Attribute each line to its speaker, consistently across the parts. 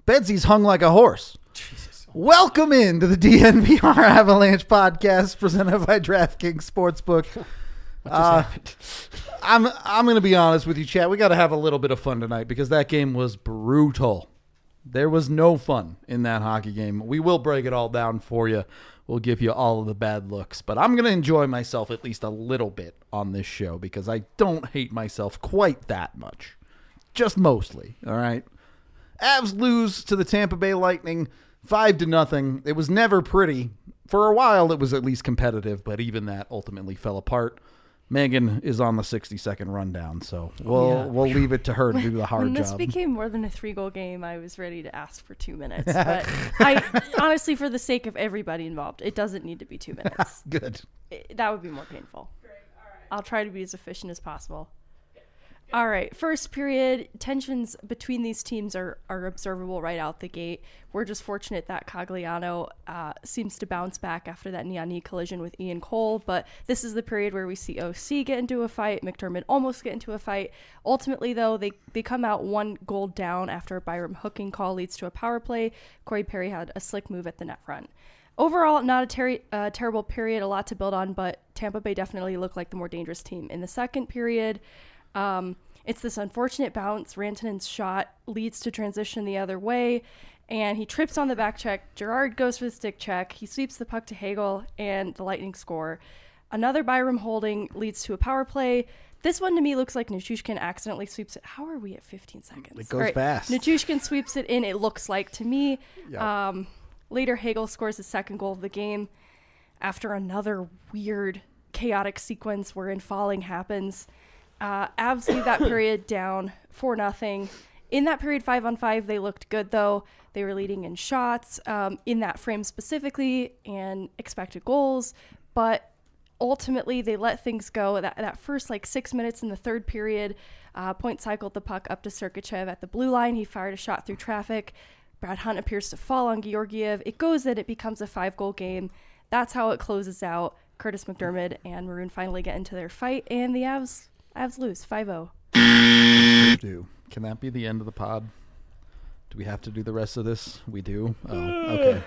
Speaker 1: Bedsy's hung like a horse.
Speaker 2: Jesus.
Speaker 1: Welcome into the DNVR Avalanche podcast presented by DraftKings Sportsbook.
Speaker 2: What just happened?
Speaker 1: I'm going to be honest with you, chat. We got to have a little bit of fun tonight because that game was brutal. There was no fun in that hockey game. We will break it all down for you. We'll give you all of the bad looks. But I'm going to enjoy myself at least a little bit on this show because I don't hate myself quite that much. Just mostly, all right? Avs lose to the Tampa Bay Lightning 5-0. It was never pretty. For a while, it was at least competitive, but even that ultimately fell apart. Megan is on the 60-second rundown, so we'll leave it to her to do the hard job.
Speaker 3: When this became more than a 3-goal game, I was ready to ask for 2 minutes. But I honestly, for the sake of everybody involved, it doesn't need to be 2 minutes.
Speaker 1: Good.
Speaker 3: That would be more painful. Great. All right. I'll try to be as efficient as possible. All right, first period, tensions between these teams are observable right out the gate. We're just fortunate that Cogliano seems to bounce back after that knee-on-knee collision with Ian Cole, but this is the period where we see OC get into a fight, McDermott almost get into a fight. Ultimately, though, they come out 1 goal down after a Byram hooking call leads to a power play. Corey Perry had a slick move at the net front. Overall, not a terrible period, a lot to build on, but Tampa Bay definitely looked like the more dangerous team. In the second period, it's this unfortunate bounce. Rantanen's shot leads to transition the other way, and he trips on the back check. Gerard goes for the stick check. He sweeps the puck to Hagel, and the Lightning score. Another Byram holding leads to a power play. This one to me looks like Nichushkin accidentally sweeps it. How are we at 15 seconds?
Speaker 1: It goes fast.
Speaker 3: Nichushkin sweeps it in, it looks like to me.
Speaker 1: Yep.
Speaker 3: Later, Hagel scores the second goal of the game after another weird, chaotic sequence wherein falling happens. Avs leave that period down 4-0. In that period, 5-on-5, they looked good, though. They were leading in shots in that frame specifically and expected goals. But ultimately, they let things go. That first, 6 minutes in the third period, Point cycled the puck up to Sergachev at the blue line. He fired a shot through traffic. Brad Hunt appears to fall on Georgiev. It goes in. It becomes a 5-goal game. That's how it closes out. Curtis McDermott and Maroon finally get into their fight, and the Avs lose 5-0.
Speaker 1: Can that be the end of the pod? Do we have to do the rest of this? We do? Oh,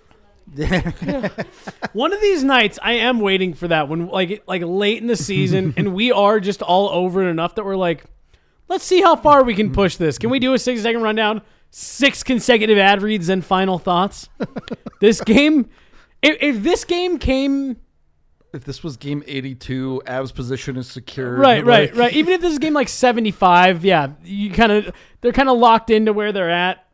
Speaker 1: okay.
Speaker 2: One of these nights, I am waiting for that when, like late in the season, and we are just all over it enough that we're like, let's see how far we can push this. Can we do a 60-second rundown? 6 consecutive ad reads and final thoughts. This game, if this game came...
Speaker 1: If this was game 82, Avs position is secure.
Speaker 2: Right. Even if this is game 75, yeah, they're kind of locked into where they're at.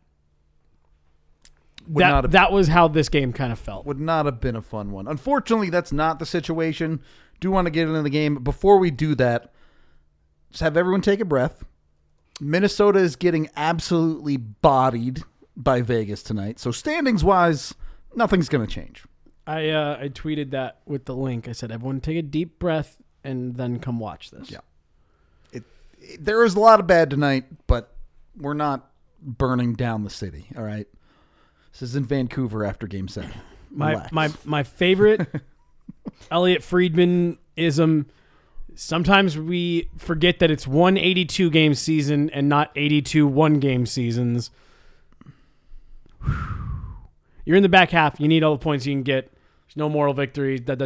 Speaker 2: That was how this game kind of felt.
Speaker 1: Would not have been a fun one. Unfortunately, that's not the situation. Do want to get into the game. But before we do that, just have everyone take a breath. Minnesota is getting absolutely bodied by Vegas tonight. So standings-wise, nothing's going to change.
Speaker 2: I tweeted that with the link. I said, everyone take a deep breath and then come watch this.
Speaker 1: Yeah. There is a lot of bad tonight, but we're not burning down the city, all right? This is in Vancouver after Game 7.
Speaker 2: My favorite Elliot Friedman-ism, sometimes we forget that it's one 82-game season and not 82 one-game seasons. You're in the back half. You need all the points you can get. There's no moral victory. But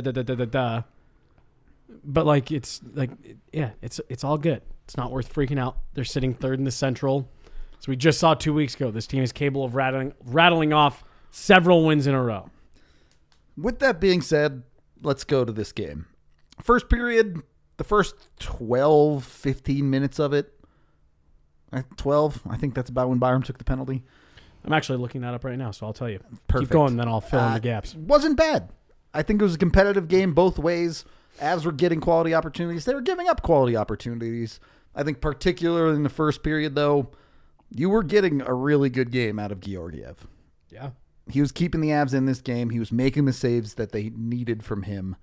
Speaker 2: it's all good. It's not worth freaking out. They're sitting third in the Central. So we just saw 2 weeks ago. This team is capable of rattling off several wins in a row.
Speaker 1: With that being said, let's go to this game. First period, the first 12, 15 minutes of it. 12, I think that's about when Byram took the penalty.
Speaker 2: I'm actually looking that up right now, so I'll tell you.
Speaker 1: Perfect.
Speaker 2: Keep going, then I'll fill in the gaps.
Speaker 1: Wasn't bad. I think it was a competitive game both ways. Avs were getting quality opportunities. They were giving up quality opportunities. I think particularly in the first period, though, you were getting a really good game out of Georgiev.
Speaker 2: Yeah.
Speaker 1: He was keeping the Avs in this game. He was making the saves that they needed from him.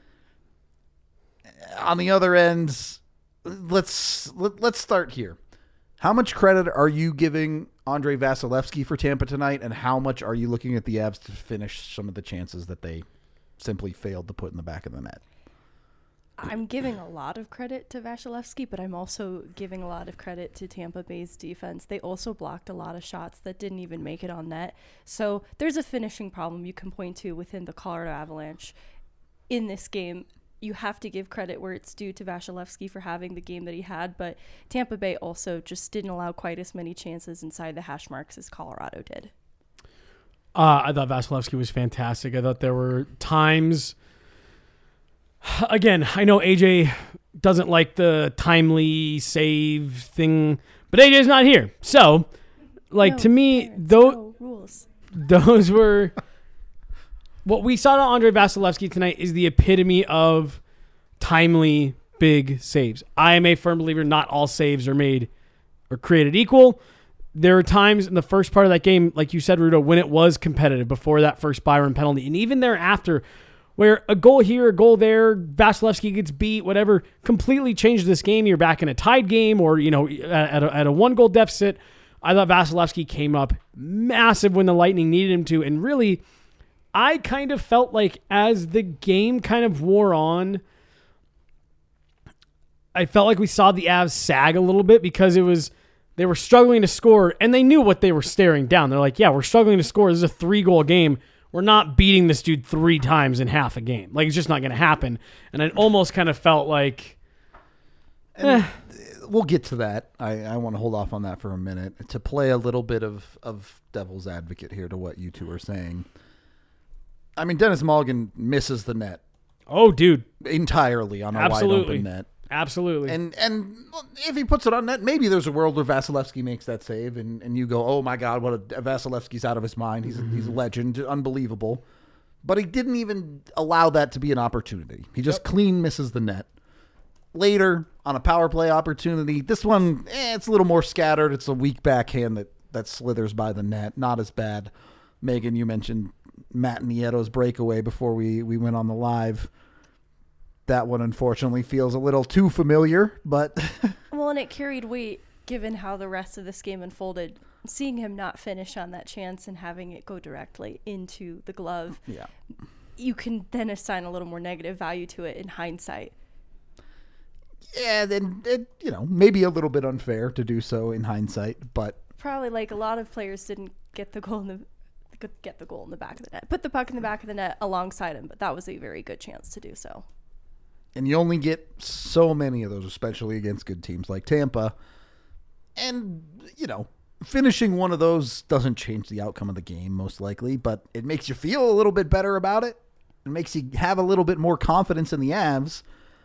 Speaker 1: On the other end, let's start here. How much credit are you giving Andrei Vasilevsky for Tampa tonight, and how much are you looking at the Avs to finish some of the chances that they simply failed to put in the back of the net?
Speaker 3: I'm giving a lot of credit to Vasilevsky, but I'm also giving a lot of credit to Tampa Bay's defense. They also blocked a lot of shots that didn't even make it on net. So there's a finishing problem you can point to within the Colorado Avalanche in this game. You have to give credit where it's due to Vasilevsky for having the game that he had, but Tampa Bay also just didn't allow quite as many chances inside the hash marks as Colorado did.
Speaker 2: I thought Vasilevsky was fantastic. I thought there were times... Again, I know AJ doesn't like the timely save thing, but AJ's not here. So, to me,
Speaker 3: rules.
Speaker 2: Those were... What we saw to Andre Vasilevsky tonight is the epitome of timely, big saves. I am a firm believer not all saves are made or created equal. There are times in the first part of that game, like you said, Rudo, when it was competitive before that first Byron penalty, and even thereafter, where a goal here, a goal there, Vasilevsky gets beat, whatever, completely changed this game. You're back in a tied game or, at a one-goal deficit. I thought Vasilevsky came up massive when the Lightning needed him to. And really, I kind of felt like as the game kind of wore on, I felt like we saw the Avs sag a little bit because they were struggling to score, and they knew what they were staring down. They're like, yeah, we're struggling to score. This is a 3-goal game. We're not beating this dude 3 times in half a game. Like, it's just not going to happen. And I almost kind of felt like...
Speaker 1: We'll get to that. I want to hold off on that for a minute. To play a little bit of devil's advocate here to what you two are saying. I mean, Dennis Mulligan misses the net.
Speaker 2: Oh, dude.
Speaker 1: Entirely on a wide open net.
Speaker 2: Absolutely.
Speaker 1: And if he puts it on net, maybe there's a world where Vasilevsky makes that save, and you go, oh my God, Vasilevsky's out of his mind. He's a legend, unbelievable. But he didn't even allow that to be an opportunity. He just clean misses the net. Later, on a power play opportunity, this one, it's a little more scattered. It's a weak backhand that slithers by the net. Not as bad. Megan, you mentioned Matt Nieto's breakaway before we went on the live. That one, unfortunately, feels a little too familiar, but...
Speaker 3: Well, and it carried weight, given how the rest of this game unfolded. Seeing him not finish on that chance and having it go directly into the glove, you can then assign a little more negative value to it in hindsight.
Speaker 1: Yeah, then, maybe a little bit unfair to do so in hindsight, but...
Speaker 3: Probably, like, a lot of players didn't get the goal in the back of the net. Put the puck in the back of the net alongside him, but that was a very good chance to do so.
Speaker 1: And you only get so many of those, especially against good teams like Tampa. And, finishing one of those doesn't change the outcome of the game, most likely, but it makes you feel a little bit better about it. It makes you have a little bit more confidence in the Avs.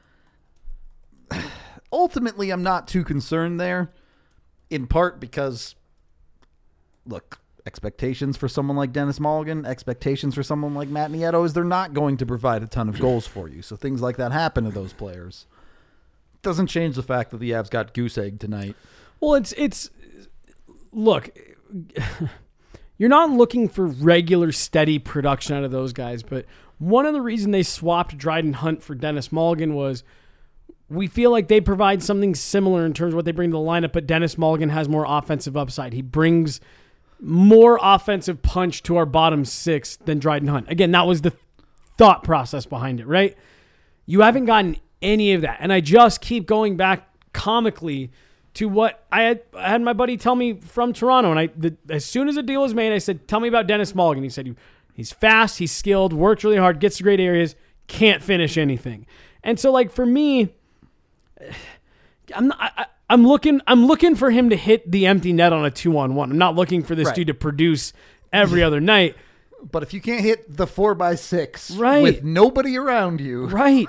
Speaker 1: Ultimately, I'm not too concerned there, in part because, look, expectations for someone like Dennis Mulligan, expectations for someone like Matt Nieto is they're not going to provide a ton of goals for you. So things like that happen to those players. Doesn't change the fact that the Avs got goose egg tonight.
Speaker 2: Well, it's look, you're not looking for regular steady production out of those guys, but one of the reasons they swapped Dryden Hunt for Dennis Mulligan was we feel like they provide something similar in terms of what they bring to the lineup, but Dennis Mulligan has more offensive upside. He brings more offensive punch to our bottom 6 than Dryden Hunt. Again, that was the thought process behind it, right? You haven't gotten any of that. And I just keep going back comically to what I had my buddy tell me from Toronto. And as soon as a deal was made, I said, tell me about Dennis Mulligan. He said, he's fast, he's skilled, works really hard, gets to great areas, can't finish anything. And so, like, for me, I'm looking for him to hit the empty net on a 2-on-1. I'm not looking for this dude to produce every other night.
Speaker 1: But if you can't hit the 4x6 with nobody around you,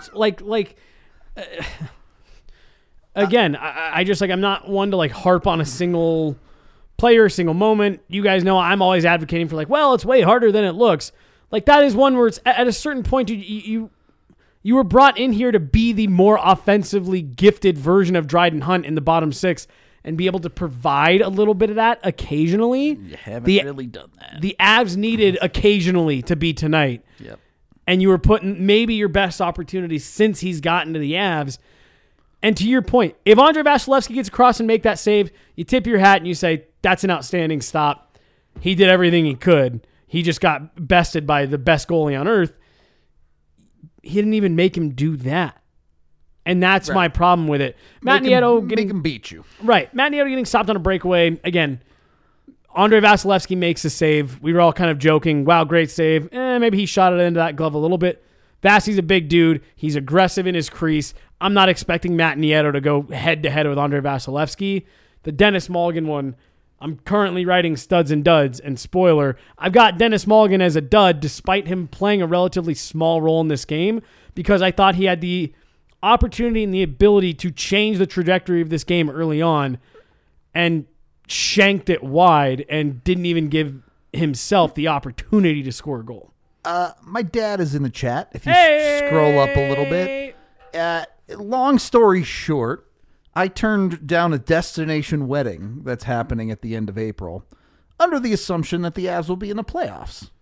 Speaker 2: again, I just I'm not one to harp on a single player, single moment. You guys know I'm always advocating for it's way harder than it looks. Like, that is one where it's at a certain point you were brought in here to be the more offensively gifted version of Dryden Hunt in the bottom 6 and be able to provide a little bit of that occasionally.
Speaker 1: You haven't really done that.
Speaker 2: The Avs needed occasionally to be tonight.
Speaker 1: Yep.
Speaker 2: And you were putting maybe your best opportunity since he's gotten to the Avs. And to your point, if Andre Vasilevsky gets across and make that save, you tip your hat and you say, that's an outstanding stop. He did everything he could. He just got bested by the best goalie on earth. He didn't even make him do that. And that's
Speaker 1: Right.
Speaker 2: my problem with it. Matt
Speaker 1: Make 'em-
Speaker 2: Nieto
Speaker 1: make
Speaker 2: getting
Speaker 1: him beat you.
Speaker 2: right. Matt Nieto getting stopped on a breakaway. Again, Andre Vasilevsky makes a save. We were all kind of joking, wow, great save. Maybe he shot it into that glove a little bit. Vasi's a big dude. He's aggressive in his crease. I'm not expecting Matt Nieto to go head-to-head with Andre Vasilevsky. The Dennis Mulligan one, I'm currently writing studs and duds, and spoiler, I've got Dennis Mulligan as a dud despite him playing a relatively small role in this game because I thought he had the opportunity and the ability to change the trajectory of this game early on and shanked it wide and didn't even give himself the opportunity to score a goal.
Speaker 1: My dad is in the chat. If you scroll up a little bit. Long story short, I turned down a destination wedding that's happening at the end of April under the assumption that the Avs will be in the playoffs.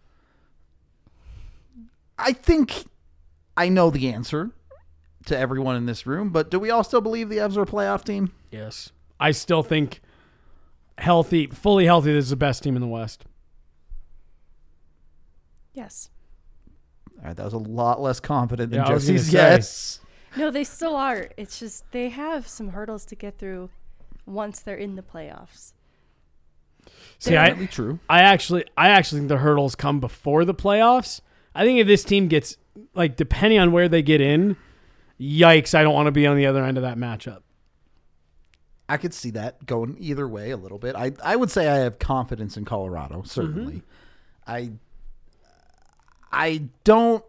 Speaker 1: I think I know the answer to everyone in this room, but do we all still believe the Avs are a playoff team?
Speaker 2: Yes. I still think fully healthy, this is the best team in the West.
Speaker 3: Yes.
Speaker 1: All right, that was a lot less confident than
Speaker 2: Yeah, I was gonna
Speaker 1: Jesse's
Speaker 2: say.
Speaker 1: yes.
Speaker 3: No, they still are. It's just they have some hurdles to get through once they're in the playoffs.
Speaker 2: See,
Speaker 1: Definitely true.
Speaker 2: I actually think the hurdles come before the playoffs. I think if this team gets, like, depending on where they get in, yikes, I don't want to be on the other end of that matchup.
Speaker 1: I could see that going either way a little bit. I would say I have confidence in Colorado, certainly. I don't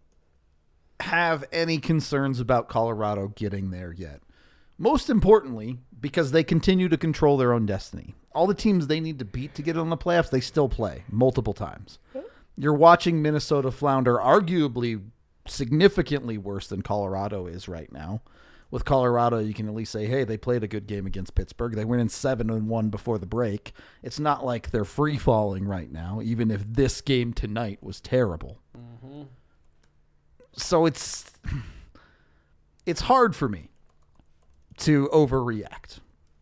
Speaker 1: have any concerns about Colorado getting there yet. Most importantly, because they continue to control their own destiny. All the teams they need to beat to get in the playoffs, they still play multiple times. You're watching Minnesota flounder, arguably significantly worse than Colorado is right now. With Colorado, you can at least say, hey, they played a good game against Pittsburgh. They went in 7-1 before the break. It's not like they're free-falling right now, even if this game tonight was terrible. Mm-hmm. So it's hard for me to overreact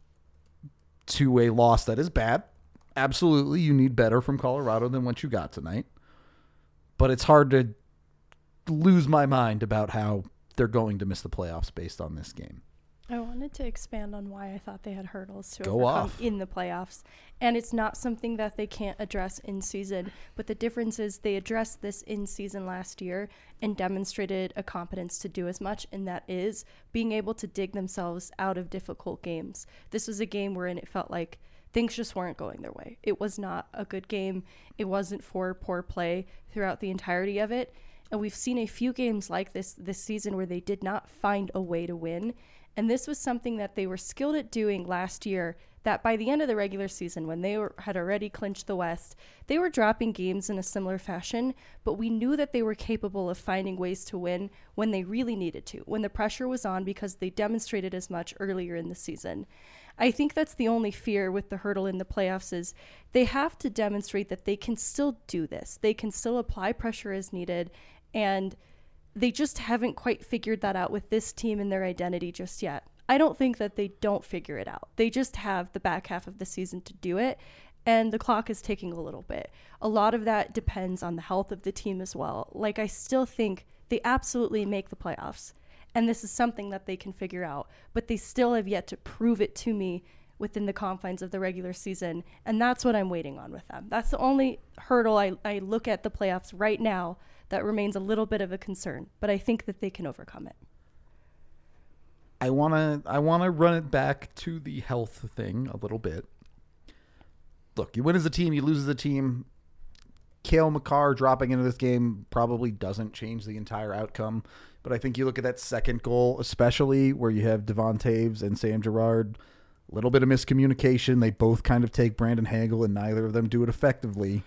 Speaker 1: to a loss that is bad. Absolutely, you need better from Colorado than what you got tonight. But it's hard to lose my mind about how they're going to miss the playoffs based on this game.
Speaker 3: I wanted to expand on why I thought they had hurdles to
Speaker 1: Go
Speaker 3: overcome
Speaker 1: off.
Speaker 3: in the playoffs. And it's not something that they can't address in season, but the difference is they addressed this in season last year and demonstrated a competence to do as much, and that is being able to dig themselves out of difficult games. This was a game wherein it felt like things just weren't going their way. It was not a good game. It wasn't for poor play throughout the entirety of it. And we've seen a few games like this season where they did not find a way to win. And this was something that they were skilled at doing last year, that by the end of the regular season, when they had already clinched the West, they were dropping games in a similar fashion, but we knew that they were capable of finding ways to win when they really needed to, when the pressure was on, because they demonstrated as much earlier in the season. I think that's the only fear with the hurdle in the playoffs is they have to demonstrate that they can still do this. They can still apply pressure as needed, and they just haven't quite figured that out with this team and their identity just yet. I don't think that they don't figure it out. They just have the back half of the season to do it, and the clock is ticking a little bit. A lot of that depends on the health of the team as well. Like, I still think they absolutely make the playoffs, and this is something that they can figure out, but they still have yet to prove it to me within the confines of the regular season, and that's what I'm waiting on with them. That's the only hurdle I look at the playoffs right now that remains a little bit of a concern, but I think that they can overcome it.
Speaker 1: I wanna run it back to the health thing a little bit. Look, you win as a team, you lose as a team. Cale Makar dropping into this game probably doesn't change the entire outcome, but I think you look at that second goal, especially where you have Devon Taves and Sam Girard, a little bit of miscommunication. They both kind of take Brandon Hagel, and neither of them do it effectively.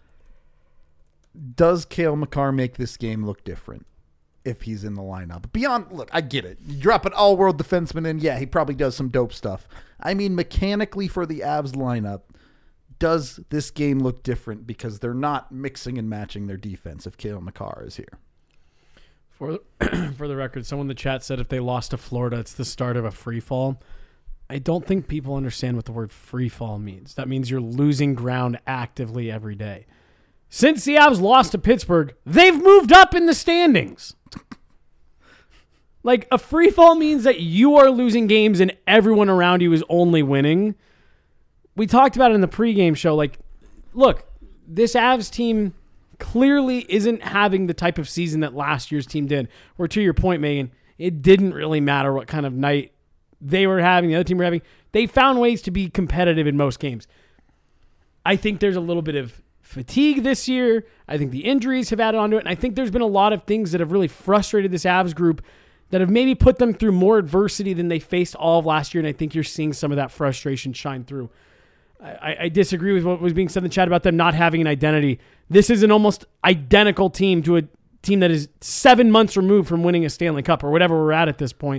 Speaker 1: Does Cale Makar make this game look different if he's in the lineup? Beyond, look, I get it. You drop an all-world defenseman in, yeah, he probably does some dope stuff. I mean, mechanically for the Avs lineup, does this game look different because they're not mixing and matching their defense if Cale Makar is here?
Speaker 2: For the record, someone in the chat said if they lost to Florida, it's the start of a free fall. I don't think people understand what the word free fall means. That means you're losing ground actively every day. Since the Avs lost to Pittsburgh, they've moved up in the standings. Like, a free fall means that you are losing games and everyone around you is only winning. We talked about it in the pregame show. Like, look, this Avs team clearly isn't having the type of season that last year's team did. Where, to your point, Megan, it didn't really matter what kind of night they were having, the other team were having. They found ways to be competitive in most games. I think there's a little bit of fatigue this year. I think the injuries have added onto it. And I think there's been a lot of things that have really frustrated this Avs group that have maybe put them through more adversity than they faced all of last year. And I think you're seeing some of that frustration shine through. I disagree with what was being said in the chat about them not having an identity. This is an almost identical team to a team that is 7 months removed from winning a Stanley Cup or whatever we're at this point.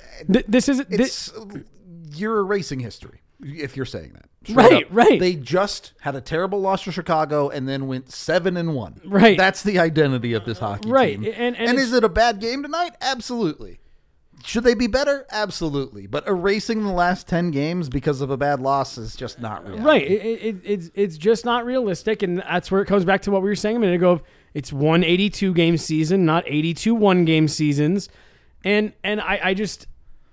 Speaker 1: You're erasing history if you're saying that.
Speaker 2: Right.
Speaker 1: They just had a terrible loss to Chicago and then went 7-1.
Speaker 2: Right.
Speaker 1: That's the identity of this hockey team.
Speaker 2: And
Speaker 1: is it a bad game tonight? Absolutely. Should they be better? Absolutely. But erasing the last 10 games because of a bad loss is just not real.
Speaker 2: Right. It's just not realistic, and that's where it comes back to what we were saying a minute ago. It's 182 game season, not 82 one game seasons. And I just...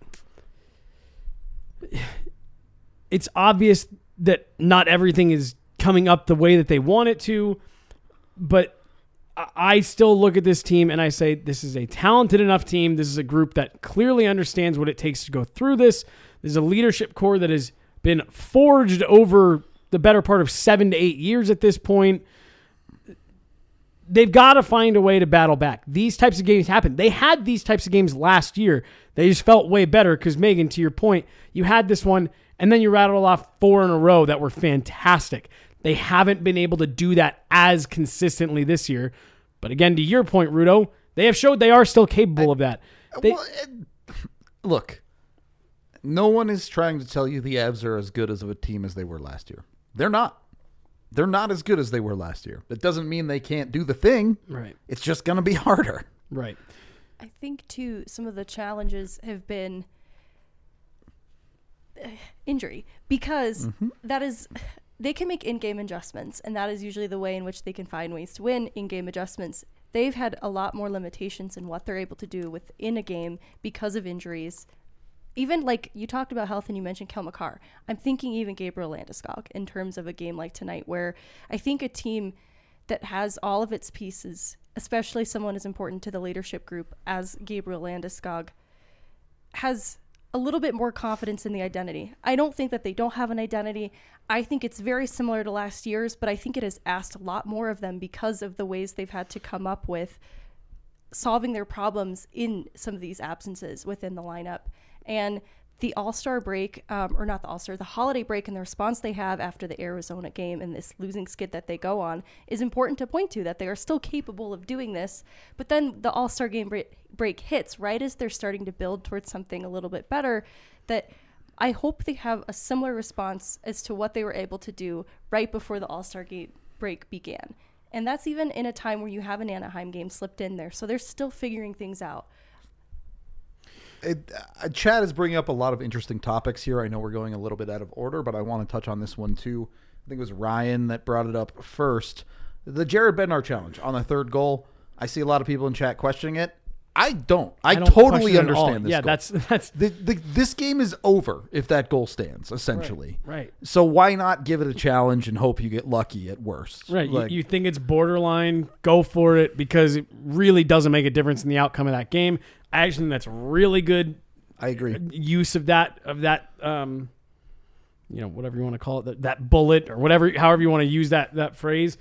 Speaker 2: It's obvious that not everything is coming up the way that they want it to, but I still look at this team and I say, this is a talented enough team. This is a group that clearly understands what it takes to go through this. There's a leadership core that has been forged over the better part of 7 to 8 years at this point. They've got to find a way to battle back. These types of games happen. They had these types of games last year. They just felt way better because, Megan, to your point, you had this one and then you rattled off 4 in a row that were fantastic. They haven't been able to do that as consistently this year. But again, to your point, Rudo, they have showed they are still capable of that.
Speaker 1: Look, no one is trying to tell you the Avs are as good as of a team as they were last year. They're not. They're not as good as they were last year. That doesn't mean they can't do the thing.
Speaker 2: Right.
Speaker 1: It's just going to be harder.
Speaker 2: Right.
Speaker 3: I think, too, some of the challenges have been injury because that is... They can make in-game adjustments, and that is usually the way in which they can find ways to win in-game adjustments. They've had a lot more limitations in what they're able to do within a game because of injuries. Even like you talked about health and you mentioned Cale Makar. I'm thinking even Gabriel Landeskog in terms of a game like tonight where I think a team that has all of its pieces, especially someone as important to the leadership group as Gabriel Landeskog, has a little bit more confidence in the identity. I don't think that they don't have an identity. I think it's very similar to last year's, but I think it has asked a lot more of them because of the ways they've had to come up with solving their problems in some of these absences within the lineup. And the All-Star break, or not the All-Star, the holiday break and the response they have after the Arizona game and this losing skid that they go on is important to point to, that they are still capable of doing this. But then the All-Star game break hits right as they're starting to build towards something a little bit better, that I hope they have a similar response as to what they were able to do right before the All-Star game break began. And that's even in a time where you have an Anaheim game slipped in there. So they're still figuring things out.
Speaker 1: Chad is bringing up a lot of interesting topics here. I know we're going a little bit out of order, but I want to touch on this one too. I think it was Ryan that brought it up first. The Jared Bednar challenge on the third goal. I see a lot of people in chat questioning it. I don't. I totally understand this.
Speaker 2: Yeah,
Speaker 1: goal.
Speaker 2: that's
Speaker 1: this game is over if that goal stands, essentially.
Speaker 2: Right.
Speaker 1: So why not give it a challenge and hope you get lucky at worst?
Speaker 2: Right. Like, you think it's borderline, go for it because it really doesn't make a difference in the outcome of that game. I actually think that's really good.
Speaker 1: I agree.
Speaker 2: Use of that whatever you want to call it, that bullet or whatever, however you want to use that phrase.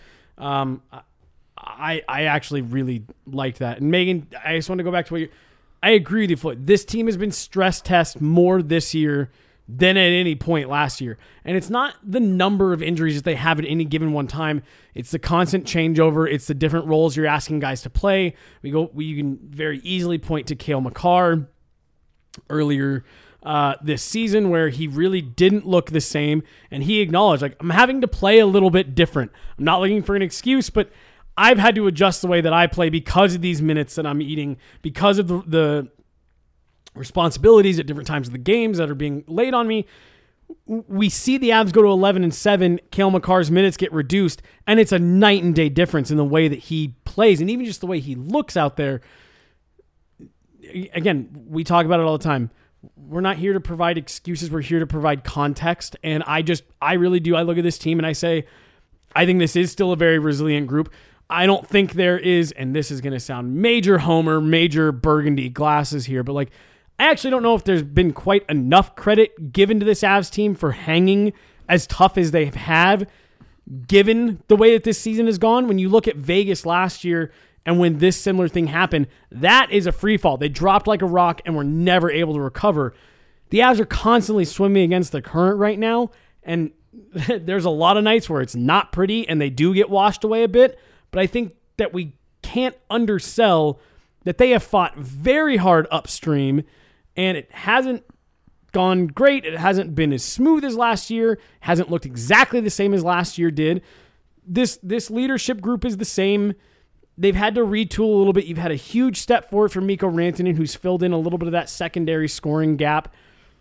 Speaker 2: I actually really liked that. And Megan, I just want to go back to what I agree with you, Floyd. This team has been stress test more this year than at any point last year. And it's not the number of injuries that they have at any given one time. It's the constant changeover. It's the different roles you're asking guys to play. You can very easily point to Cale Makar earlier this season where he really didn't look the same. And he acknowledged, like, I'm having to play a little bit different. I'm not looking for an excuse, but I've had to adjust the way that I play because of these minutes that I'm eating, because of the responsibilities at different times of the games that are being laid on me. We see the Avs go to 11-7. Cale Makar's minutes get reduced, and it's a night and day difference in the way that he plays, and even just the way he looks out there. again, we talk about it all the time. We're not here to provide excuses. We're here to provide context. And I really do. I look at this team and I say, I think this is still a very resilient group. I don't think there is, and this is going to sound major homer, major burgundy glasses here, but like, I actually don't know if there's been quite enough credit given to this Avs team for hanging as tough as they have, given the way that this season has gone. When you look at Vegas last year and when this similar thing happened, that is a free fall. They dropped like a rock and were never able to recover. The Avs are constantly swimming against the current right now, and there's a lot of nights where it's not pretty and they do get washed away a bit, but I think that we can't undersell that they have fought very hard upstream, and it hasn't gone great. It hasn't been as smooth as last year. Hasn't looked exactly the same as last year did. This leadership group is the same. They've had to retool a little bit. You've had a huge step forward from Mikko Rantanen, who's filled in a little bit of that secondary scoring gap.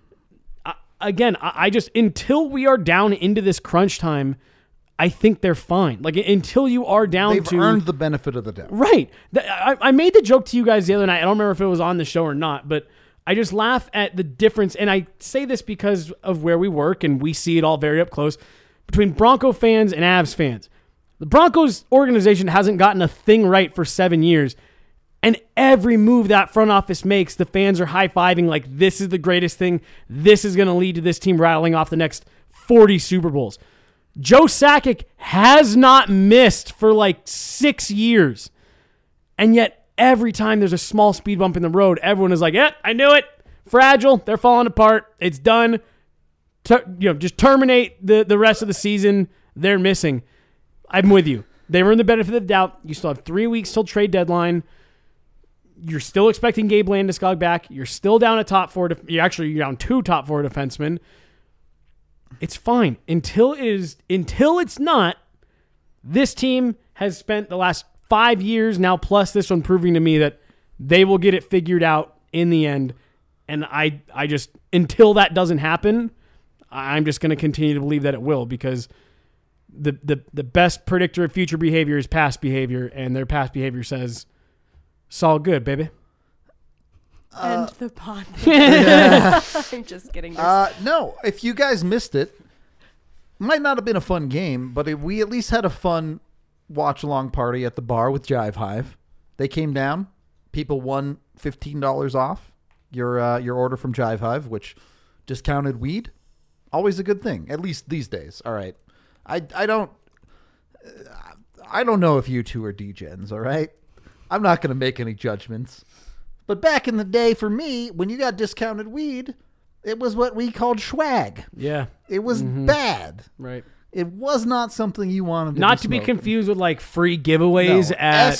Speaker 2: I just, until we are down into this crunch time, I think they're fine. Like, until you are down
Speaker 1: They've earned the benefit of the doubt.
Speaker 2: Right. I made the joke to you guys the other night. I don't remember if it was on the show or not, but I just laugh at the difference, and I say this because of where we work, and we see it all very up close, between Bronco fans and Avs fans. The Broncos organization hasn't gotten a thing right for 7 years, and every move that front office makes, the fans are high-fiving like, this is the greatest thing. This is going to lead to this team rattling off the next 40 Super Bowls. Joe Sakic has not missed for like 6 years. And yet, every time there's a small speed bump in the road, everyone is like, I knew it. Fragile. They're falling apart. It's done. Just terminate the rest of the season. They're missing. I'm with you. They were in the benefit of the doubt. You still have 3 weeks till trade deadline. You're still expecting Gabe Landeskog back. You're still down a top four. You're down 2 top 4 defensemen. It's fine until it's not. This team has spent the last 5 years now, plus this one, proving to me that they will get it figured out in the end. And I just, until that doesn't happen, I'm just going to continue to believe that it will, because the best predictor of future behavior is past behavior, and their past behavior says, it's all good, baby.
Speaker 3: End the pod. I'm just kidding.
Speaker 1: No, if you guys missed it, might not have been a fun game, but we at least had a fun watch-along party at the bar with Jive Hive. They came down. People won $15 off your order from Jive Hive, which discounted weed. Always a good thing, at least these days. All right. I don't know if you two are degens, all right? I'm not going to make any judgments. But back in the day, for me, when you got discounted weed, it was what we called swag.
Speaker 2: Yeah.
Speaker 1: It was bad.
Speaker 2: Right.
Speaker 1: It was not something you wanted to
Speaker 2: Not to be
Speaker 1: smoking.
Speaker 2: confused with like free giveaways at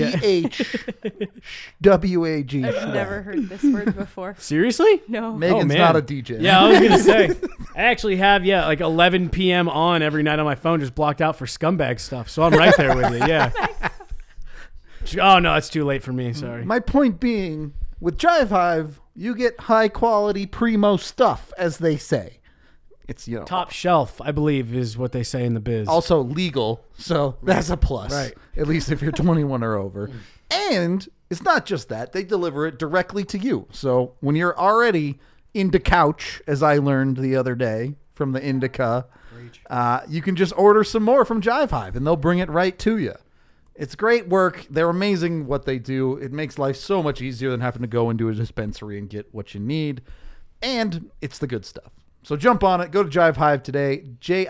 Speaker 1: SCHWAG.
Speaker 3: I've never heard this word before.
Speaker 2: Seriously?
Speaker 3: No.
Speaker 1: Megan's
Speaker 2: man.
Speaker 1: not a DJ.
Speaker 2: Yeah, I was going to say. I actually have, like 11 p.m. on every night on my phone, just blocked out for scumbag stuff. So I'm right there with you. Yeah. Oh, no, it's too late for me. Sorry.
Speaker 1: My point being, with Jive Hive, you get high quality primo stuff, as they say. It's,
Speaker 2: Top shelf, I believe, is what they say in the biz.
Speaker 1: also legal, so that's a plus.
Speaker 2: Right.
Speaker 1: At least if you're 21 or over. And it's not just that. They deliver it directly to you. So when you're already into couch, as I learned the other day from the Indica, you can just order some more from Jive Hive, and they'll bring it right to you. It's great work. They're amazing what they do. It makes life so much easier than having to go into a dispensary and get what you need. And it's the good stuff. So jump on it. Go to Jive Hive today,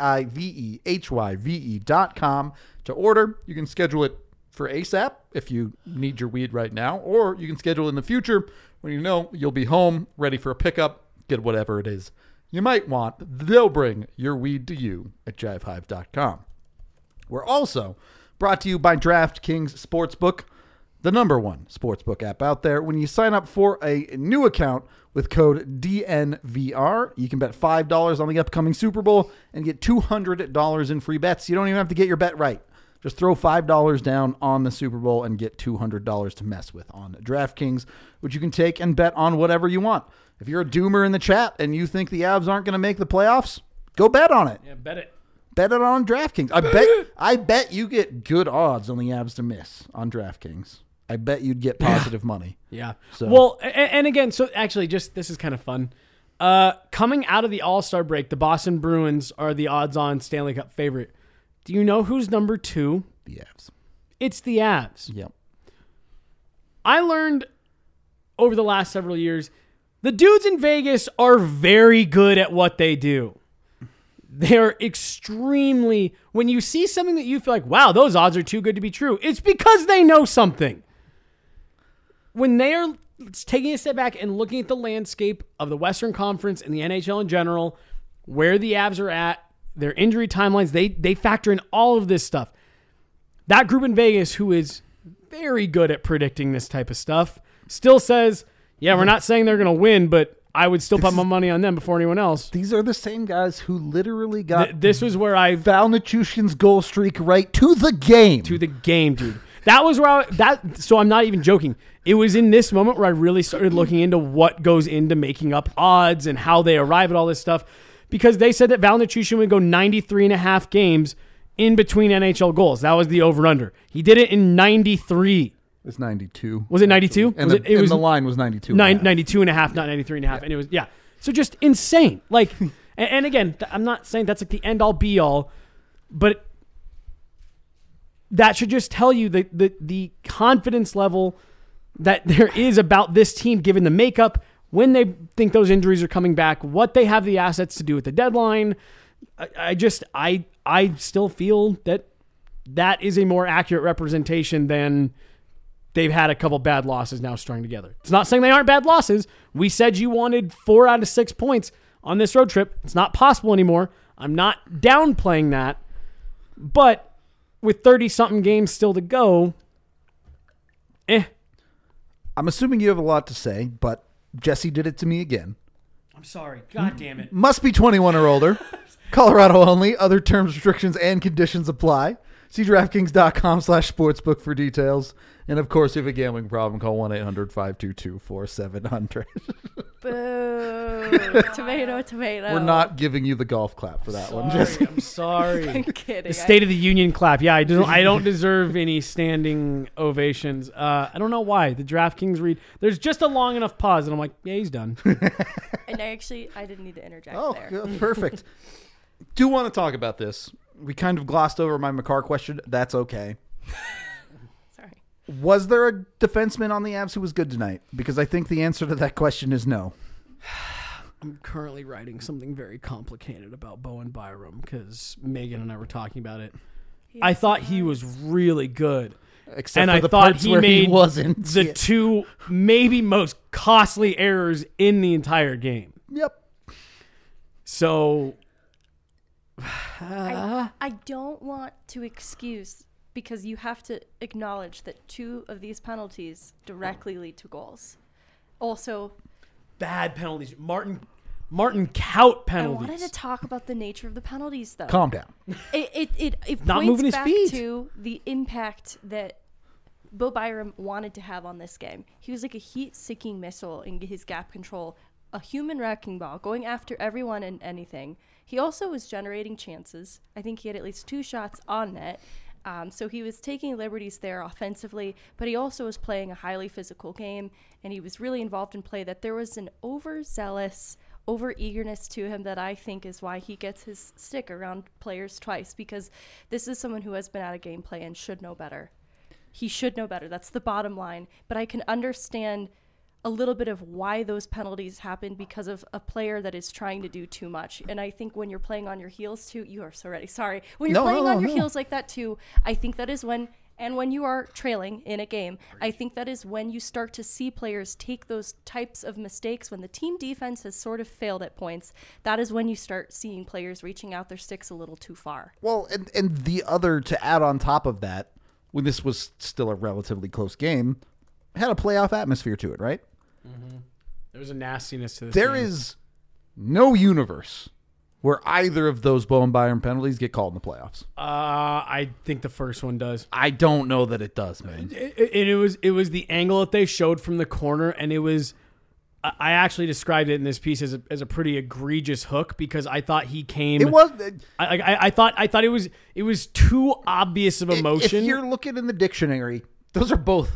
Speaker 1: JIVEHYVE.com to order. You can schedule it for ASAP if you need your weed right now, or you can schedule it in the future when you know you'll be home, ready for a pickup, get whatever it is you might want. They'll bring your weed to you at JiveHive.com. We're also brought to you by DraftKings Sportsbook, the #1 sportsbook app out there. When you sign up for a new account with code DNVR, you can bet $5 on the upcoming Super Bowl and get $200 in free bets. You don't even have to get your bet right. Just throw $5 down on the Super Bowl and get $200 to mess with on DraftKings, which you can take and bet on whatever you want. If you're a doomer in the chat and you think the Avs aren't going to make the playoffs, go bet on it.
Speaker 2: Yeah, bet it.
Speaker 1: Bet it on DraftKings. I bet you get good odds on the Avs to miss on DraftKings. I bet you'd get positive money.
Speaker 2: Yeah.
Speaker 1: So-
Speaker 2: Well, and again, so actually, just this is kind of fun. Coming out of the All-Star break, the Boston Bruins are the odds-on Stanley Cup favorite. Do you know who's number 2?
Speaker 1: The Avs.
Speaker 2: It's the Avs.
Speaker 1: Yep.
Speaker 2: I learned over the last several years, the dudes in Vegas are very good at what they do. They're extremely, when you see something that you feel like, wow, those odds are too good to be true, it's because they know something. When they are taking a step back and looking at the landscape of the Western Conference and the NHL in general, where the Avs are at, their injury timelines, they factor in all of this stuff. That group in Vegas, who is very good at predicting this type of stuff, still says, yeah, we're not saying they're going to win, but I would still put my money on them before anyone else.
Speaker 1: These are the same guys who literally got
Speaker 2: This was where I
Speaker 1: Val Nichushkin's goal streak right to the game.
Speaker 2: to the game, dude. That was where so I'm not even joking. It was in this moment where I really started looking into what goes into making up odds and how they arrive at all this stuff, because they said that Val Nichushkin would go 93.5 games in between NHL goals. That was the over-under. He did it in 93.
Speaker 1: It's 92.
Speaker 2: Was it 92?
Speaker 1: And,
Speaker 2: Was
Speaker 1: the, and the line was 92.
Speaker 2: 92 and a half, not 93 and a half. And it was, yeah. So just insane. Like, and again, I'm not saying that's like the end all be all, but that should just tell you the confidence level that there is about this team, given the makeup, when they think those injuries are coming back, what they have the assets to do at the deadline. I still feel that is a more accurate representation than they've had a couple bad losses now strung together. It's not saying they aren't bad losses. We said you wanted 4 out of 6 points on this road trip. It's not possible anymore. I'm not downplaying that. But with 30-something games still to go,
Speaker 1: I'm assuming you have a lot to say, but Jesse did it to me again.
Speaker 2: I'm sorry. God damn it.
Speaker 1: Must be 21 or older. Colorado only. Other terms, restrictions, and conditions apply. See DraftKings.com/sportsbook for details. And, of course, if you have a gambling problem, call 1-800-522-4700.
Speaker 3: Boo. Tomato.
Speaker 1: We're not giving you the golf clap for that one, Jesse.
Speaker 2: I'm sorry.
Speaker 3: I'm kidding.
Speaker 2: The State of the Union clap. Yeah, I don't deserve any standing ovations. I don't know why. The DraftKings read. There's just a long enough pause, and I'm like, yeah, he's done.
Speaker 3: And I didn't need to interject there.
Speaker 1: Good, perfect. Do want to talk about this. We kind of glossed over my McCarr question. That's okay.
Speaker 3: Sorry.
Speaker 1: Was there a defenseman on the Avs who was good tonight? Because I think the answer to that question is no.
Speaker 2: I'm currently writing something very complicated about Bowen Byram because Megan and I were talking about it. I thought he was really good.
Speaker 1: Except
Speaker 2: and
Speaker 1: for
Speaker 2: I
Speaker 1: the
Speaker 2: thought
Speaker 1: parts
Speaker 2: he
Speaker 1: where
Speaker 2: made
Speaker 1: he wasn't.
Speaker 2: the 2 maybe most costly errors in the entire game.
Speaker 1: Yep.
Speaker 2: So
Speaker 3: I don't want to excuse, because you have to acknowledge that 2 of these penalties directly lead to goals. Also,
Speaker 2: bad penalties. Martin Kaut penalties.
Speaker 3: I wanted to talk about the nature of the penalties, though.
Speaker 1: Calm down.
Speaker 3: It
Speaker 2: Not
Speaker 3: points
Speaker 2: moving his
Speaker 3: back
Speaker 2: feet.
Speaker 3: to the impact that Bo Byram wanted to have on this game. He was like a heat-seeking missile in his gap control, a human wrecking ball, going after everyone and anything. He also was generating chances. I think he had at least 2 shots on net. So he was taking liberties there offensively, but he also was playing a highly physical game, and he was really involved in play. That there was an overzealous, over-eagerness to him that I think is why he gets his stick around players twice, because this is someone who has been out of gameplay and should know better. He should know better. That's the bottom line. But I can understand a little bit of why those penalties happen because of a player that is trying to do too much. And I think when you're playing on your heels too, you are so ready. Sorry. When you're playing on your heels like that too, I think that is when, and when you are trailing in a game, I think that is when you start to see players take those types of mistakes. When the team defense has sort of failed at points, that is when you start seeing players reaching out their sticks a little too far.
Speaker 1: Well, and the other, to add on top of that, when this was still a relatively close game, had a playoff atmosphere to it, right?
Speaker 2: Mm-hmm. There was a nastiness to this
Speaker 1: There
Speaker 2: game.
Speaker 1: is no universe where either of those Bowen Byram penalties get called in the playoffs.
Speaker 2: I think the first one does.
Speaker 1: I don't know that it does, man.
Speaker 2: It was the angle that they showed from the corner, and it was. I actually described it in this piece as a pretty egregious hook because I thought he came.
Speaker 1: It was.
Speaker 2: I thought it was too obvious of a motion.
Speaker 1: If you're looking in the dictionary, those are both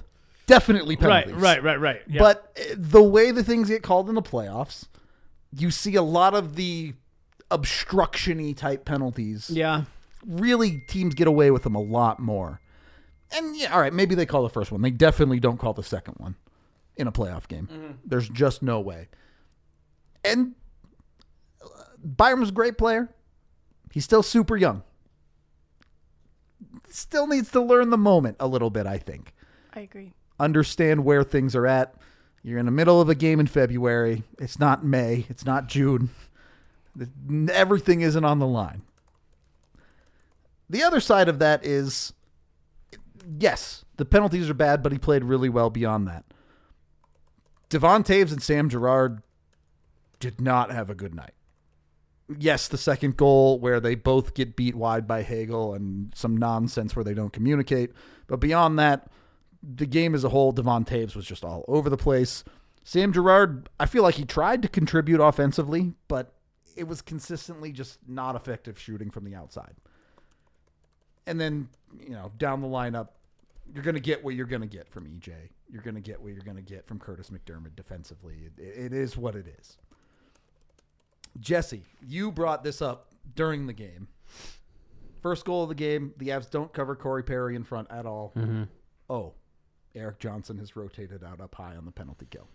Speaker 1: definitely penalties.
Speaker 2: Right. Yeah.
Speaker 1: But the way the things get called in the playoffs, you see a lot of the obstruction-y type penalties.
Speaker 2: Yeah.
Speaker 1: Really, teams get away with them a lot more. And yeah, all right, maybe they call the first one. They definitely don't call the second one in a playoff game. Mm-hmm. There's just no way. And Byram's a great player. He's still super young. Still needs to learn the moment a little bit, I think.
Speaker 3: I agree.
Speaker 1: Understand where things are at. You're in the middle of a game in February. It's not May. It's not June. Everything isn't on the line. The other side of that is, yes, the penalties are bad, but he played really well beyond that. Devon Taves and Sam Girard did not have a good night. Yes, the second goal where they both get beat wide by Hagel and some nonsense where they don't communicate. But beyond that, the game as a whole, Devon Taves was just all over the place. Sam Girard, I feel like he tried to contribute offensively, but it was consistently just not effective shooting from the outside. And then, down the lineup, you're going to get what you're going to get from EJ. You're going to get what you're going to get from Curtis McDermott defensively. It is what it is. Jesse, you brought this up during the game. First goal of the game, the Avs don't cover Corey Perry in front at all. Mm-hmm. Oh, Erik Johnson has rotated out up high on the penalty kill.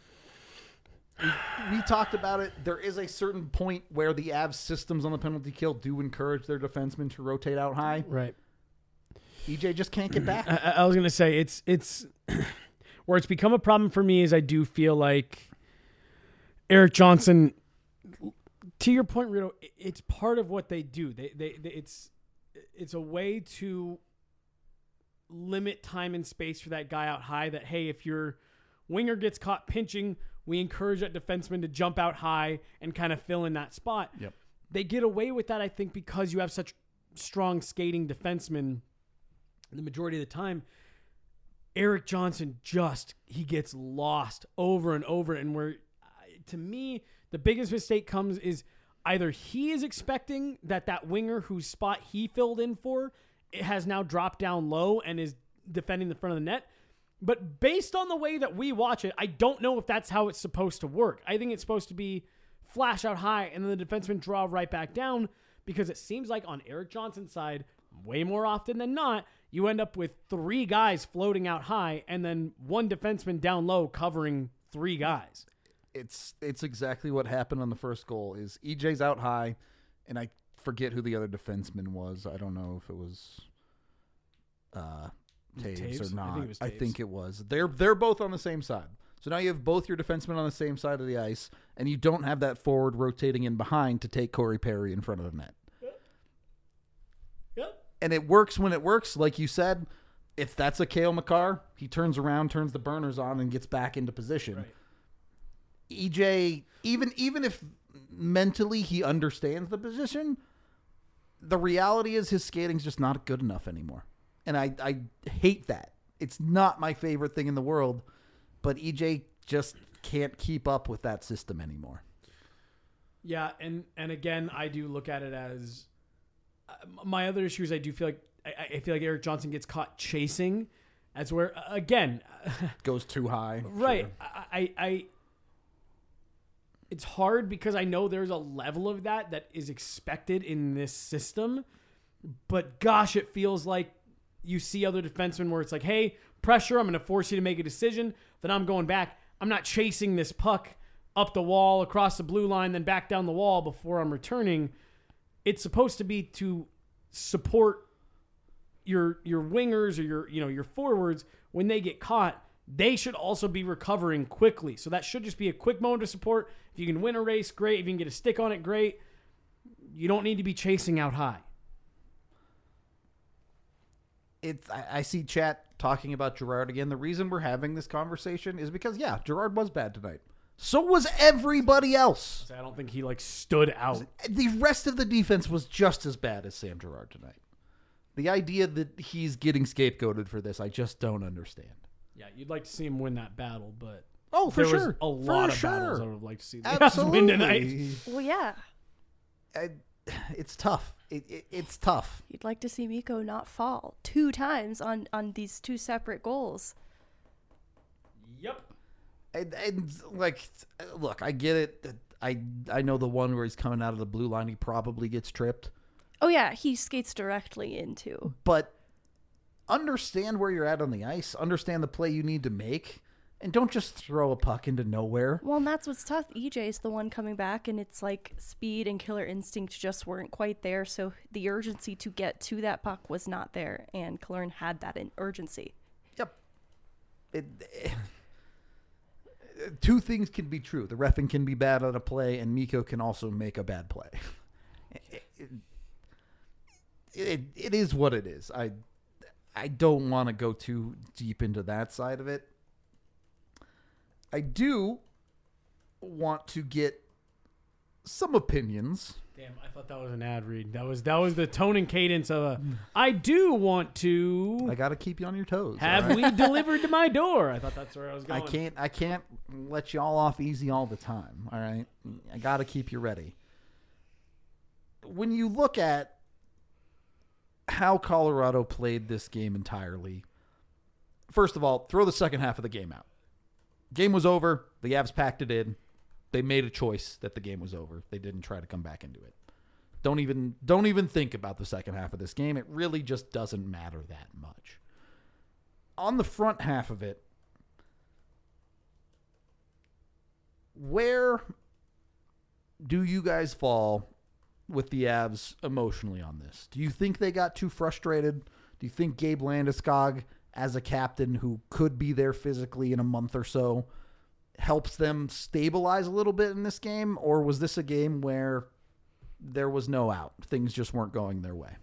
Speaker 1: We talked about it. There is a certain point where the Avs systems on the penalty kill do encourage their defensemen to rotate out high.
Speaker 2: Right.
Speaker 1: EJ just can't get back.
Speaker 2: I was going to say, it's where it's become a problem for me is I do feel like Erik Johnson, to your point, Rito, it's part of what they do. It's a way to limit time and space for that guy out high that, hey, if your winger gets caught pinching, we encourage that defenseman to jump out high and kind of fill in that spot.
Speaker 1: Yep.
Speaker 2: They get away with that, I think, because you have such strong skating defensemen the majority of the time. Erik Johnson he gets lost over and over. And where, to me, the biggest mistake comes is either he is expecting that winger whose spot he filled in for it has now dropped down low and is defending the front of the net. But based on the way that we watch it, I don't know if that's how it's supposed to work. I think it's supposed to be flash out high and then the defenseman draw right back down, because it seems like on Erik Johnson's side, way more often than not, you end up with three guys floating out high and then one defenseman down low covering three guys.
Speaker 1: It's exactly what happened on the first goal. Is EJ's out high, and I forget who the other defenseman was. I don't know if it was Taves or not. I think it was. They're both on the same side. So now you have both your defensemen on the same side of the ice, and you don't have that forward rotating in behind to take Corey Perry in front of the net.
Speaker 2: Yep.
Speaker 1: And it works when it works, like you said. If that's a Cale Makar, he turns around, turns the burners on, and gets back into position.
Speaker 2: Right.
Speaker 1: EJ, even if mentally he understands the position, the reality is his skating's just not good enough anymore. And I hate that. It's not my favorite thing in the world, but EJ just can't keep up with that system anymore.
Speaker 2: Yeah, and again, I do look at it as my other issue is I do feel like I feel like Erik Johnson gets caught chasing, as where again
Speaker 1: goes too high.
Speaker 2: Right.
Speaker 1: Sure.
Speaker 2: I it's hard because I know there's a level of that is expected in this system, but gosh, it feels like you see other defensemen where it's like, hey, pressure, I'm going to force you to make a decision, then I'm going back. I'm not chasing this puck up the wall, across the blue line, then back down the wall before I'm returning. It's supposed to be to support your wingers or your forwards when they get caught. They should also be recovering quickly. So that should just be a quick moment of support. If you can win a race, great. If you can get a stick on it, great. You don't need to be chasing out high.
Speaker 1: I see chat talking about Girard again. The reason we're having this conversation is because, yeah, Girard was bad tonight. So was everybody else.
Speaker 2: I don't think he stood out.
Speaker 1: The rest of the defense was just as bad as Sam Girard tonight. The idea that he's getting scapegoated for this, I just don't understand.
Speaker 2: Yeah, you'd like to see him win that battle, but
Speaker 1: for
Speaker 2: there
Speaker 1: sure.
Speaker 2: was a lot of battles I would like to see the
Speaker 1: Avs
Speaker 2: win tonight.
Speaker 3: Well, yeah.
Speaker 1: It's tough. It's tough.
Speaker 3: You'd like to see Mikko not fall 2 times on these 2 separate goals.
Speaker 2: Yep.
Speaker 1: And like, look, I get it. I know the one where he's coming out of the blue line, he probably gets tripped.
Speaker 3: Oh, yeah, he skates directly into.
Speaker 1: But understand where you're at on the ice. Understand the play you need to make. And don't just throw a puck into nowhere.
Speaker 3: Well, and that's what's tough. EJ's the one coming back, and it's like speed and killer instinct just weren't quite there. So the urgency to get to that puck was not there, and Killorn had that urgency.
Speaker 1: Yep. Two things can be true. The reffing can be bad on a play, and Mikko can also make a bad play. It is what it is. I don't want to go too deep into that side of it. I do want to get some opinions.
Speaker 2: Damn, I thought that was an ad read. That was the tone and cadence of a. I do want to.
Speaker 1: I got to keep you on your toes.
Speaker 2: Have we delivered to my door? I thought that's where I was going.
Speaker 1: I can't let y'all off easy all the time. All right, I got to keep you ready. When you look at how Colorado played this game entirely, first of all, throw the second half of the game out. Game was over. The Avs packed it in. They made a choice that the game was over. They didn't try to come back into it. Don't even think about the second half of this game. It really just doesn't matter that much. On the front half of it, where do you guys fall with the Avs emotionally on this? Do you think they got too frustrated? Do you think Gabe Landeskog, as a captain who could be there physically in a month or so, helps them stabilize a little bit in this game? Or was this a game where there was no out? Things just weren't going their way.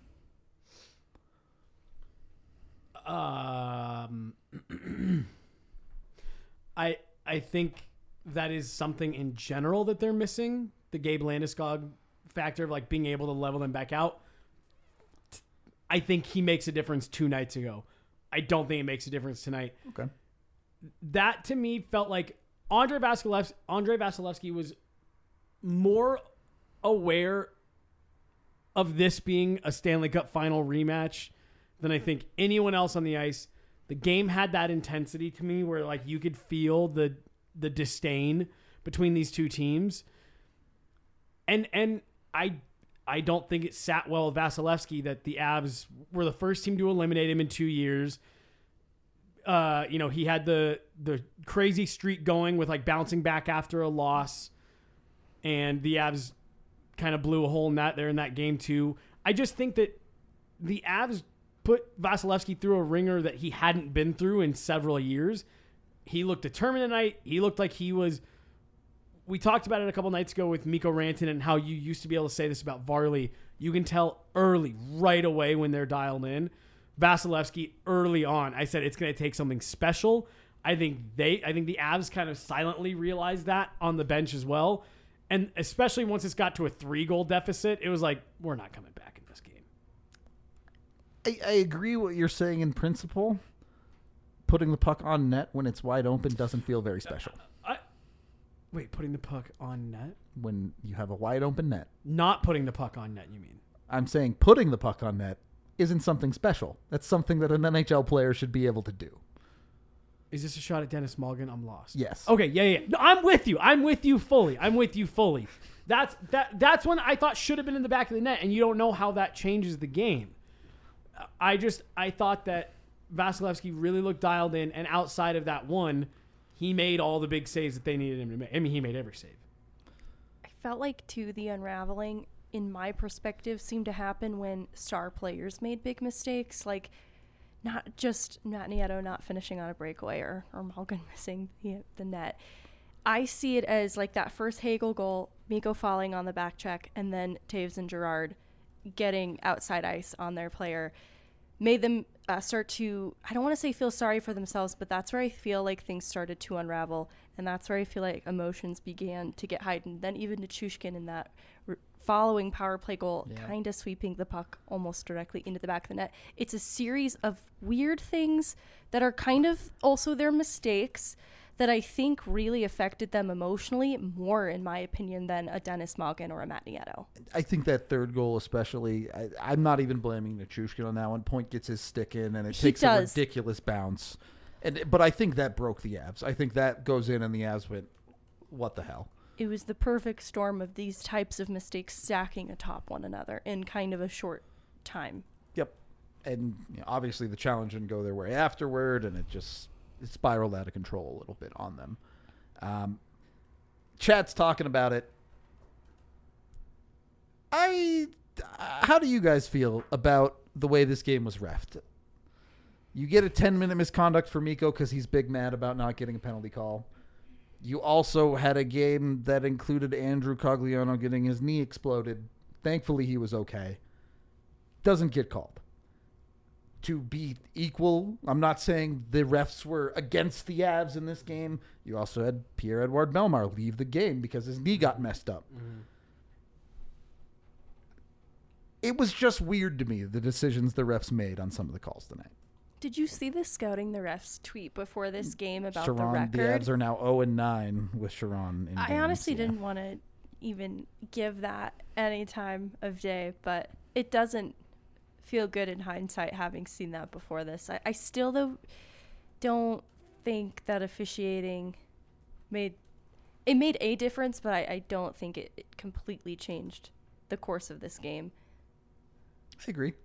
Speaker 2: I think that is something in general that they're missing. The Gabe Landeskog factor of like being able to level them back out. I think he makes a difference 2 nights ago. I don't think it makes a difference tonight.
Speaker 1: Okay.
Speaker 2: That to me felt like Andrei Vasilevsky was more aware of this being a Stanley Cup final rematch than I think anyone else on the ice. The game had that intensity to me where like you could feel the disdain between these two teams. And I don't think it sat well with Vasilevsky that the Avs were the first team to eliminate him in 2 years. He had the crazy streak going with like bouncing back after a loss, and the Avs kind of blew a hole in that there in that game too. I just think that the Avs put Vasilevsky through a ringer that he hadn't been through in several years. He looked determined tonight. He looked like he was. We talked about it a couple nights ago with Mikko Rantanen and how you used to be able to say this about Varley. You can tell early, right away when they're dialed in. Vasilevsky early on, I said it's going to take something special. I think the Avs kind of silently realized that on the bench as well. And especially once it's got to a 3-goal deficit, it was like, we're not coming back in this game.
Speaker 1: I agree what you're saying in principle. Putting the puck on net when it's wide open doesn't feel very special.
Speaker 2: Wait, putting the puck on net?
Speaker 1: When you have a wide open net.
Speaker 2: Not putting the puck on net, you mean?
Speaker 1: I'm saying putting the puck on net isn't something special. That's something that an NHL player should be able to do.
Speaker 2: Is this a shot at Dennis Mulligan? I'm lost.
Speaker 1: Yes.
Speaker 2: Okay, yeah. No, I'm with you fully. That's one I thought should have been in the back of the net, and you don't know how that changes the game. I thought that Vasilevsky really looked dialed in, and outside of that one, he made all the big saves that they needed him to make. I mean, he made every save.
Speaker 3: I felt like, too, the unraveling, in my perspective, seemed to happen when star players made big mistakes. Like, not Nieto not finishing on a breakaway or Malkin missing the net. I see it as, like, that first Hagel goal, Mikko falling on the back check, and then Taves and Girard getting outside ice on their player made them start to, I don't want to say feel sorry for themselves, but that's where I feel like things started to unravel, and that's where I feel like emotions began to get heightened. Then even Nichushkin in that following power play goal, kind of sweeping the puck almost directly into the back of the net. It's a series of weird things that are kind of also their mistakes that I think really affected them emotionally more, in my opinion, than a Dennis Malgin or a Matt Nieto.
Speaker 1: I think that third goal especially, I'm not even blaming Nichushkin on that one. Point gets his stick in, and it takes a ridiculous bounce. But I think that broke the Avs. I think that goes in and the Avs went, what the hell?
Speaker 3: It was the perfect storm of these types of mistakes stacking atop one another in kind of a short time.
Speaker 1: Yep. And obviously the challenge didn't go their way afterward, and it spiraled out of control a little bit on them. Chat's talking about it. How do you guys feel about the way this game was reffed? You get a 10-minute misconduct for Mikko because he's big mad about not getting a penalty call. You also had a game that included Andrew Cogliano getting his knee exploded. Thankfully, he was okay. Doesn't get called. To be equal, I'm not saying the refs were against the Avs in this game. You also had Pierre-Edouard Bellemare leave the game because his knee got messed up. Mm-hmm. It was just weird to me, the decisions the refs made on some of the calls tonight.
Speaker 3: Did you see the Scouting the Refs tweet before this game about
Speaker 1: Sharon,
Speaker 3: the record?
Speaker 1: The Avs are now 0-9 with Sharon in
Speaker 3: I
Speaker 1: games,
Speaker 3: honestly didn't want to even give that any time of day, but it doesn't feel good in hindsight having seen that before this. I still though don't think that officiating made a difference, but I don't think it completely changed the course of this game.
Speaker 1: I agree.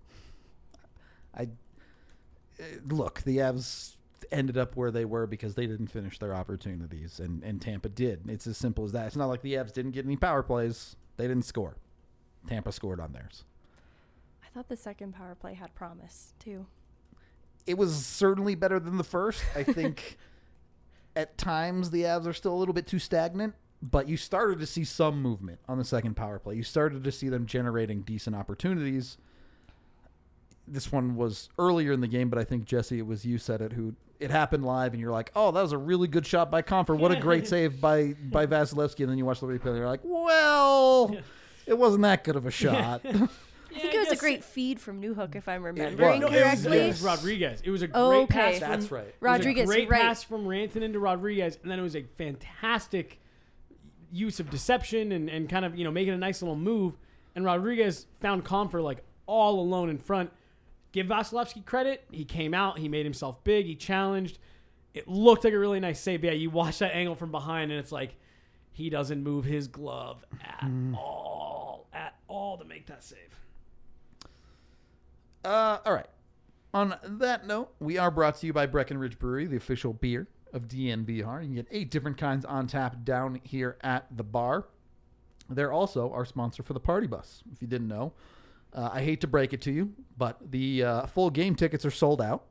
Speaker 1: Look, the Avs ended up where they were because they didn't finish their opportunities, and Tampa did. It's as simple as that. It's not like the Avs didn't get any power plays. They didn't score. Tampa scored on theirs.
Speaker 3: I thought the second power play had promise, too.
Speaker 1: It was certainly better than the first. I think at times the Avs are still a little bit too stagnant, but you started to see some movement on the second power play. You started to see them generating decent opportunities. This one was earlier in the game, but I think, Jesse, it was you said it, who it happened live, and you're like, oh, that was a really good shot by Comfer. What a great save by Vasilevsky. And then you watch the replay, and you're like, well, it wasn't that good of a shot.
Speaker 3: I think it was a great feed from Newhook, if I'm remembering correctly.
Speaker 2: It was Rodriguez. It was a great pass.
Speaker 1: That's right.
Speaker 3: Rodriguez,
Speaker 2: great pass from Rantanen into Rodriguez, and then it was a fantastic use of deception and kind of making a nice little move. And Rodriguez found Comfer like all alone in front. Give Vasilevsky credit. He came out. He made himself big. He challenged. It looked like a really nice save. Yeah, you watch that angle from behind, and it's like he doesn't move his glove at all to make that save.
Speaker 1: All right. On that note, we are brought to you by Breckenridge Brewery, the official beer of DNVR. You can get 8 different kinds on tap down here at the bar. They're also our sponsor for the Party Bus, if you didn't know. I hate to break it to you, but the full game tickets are sold out,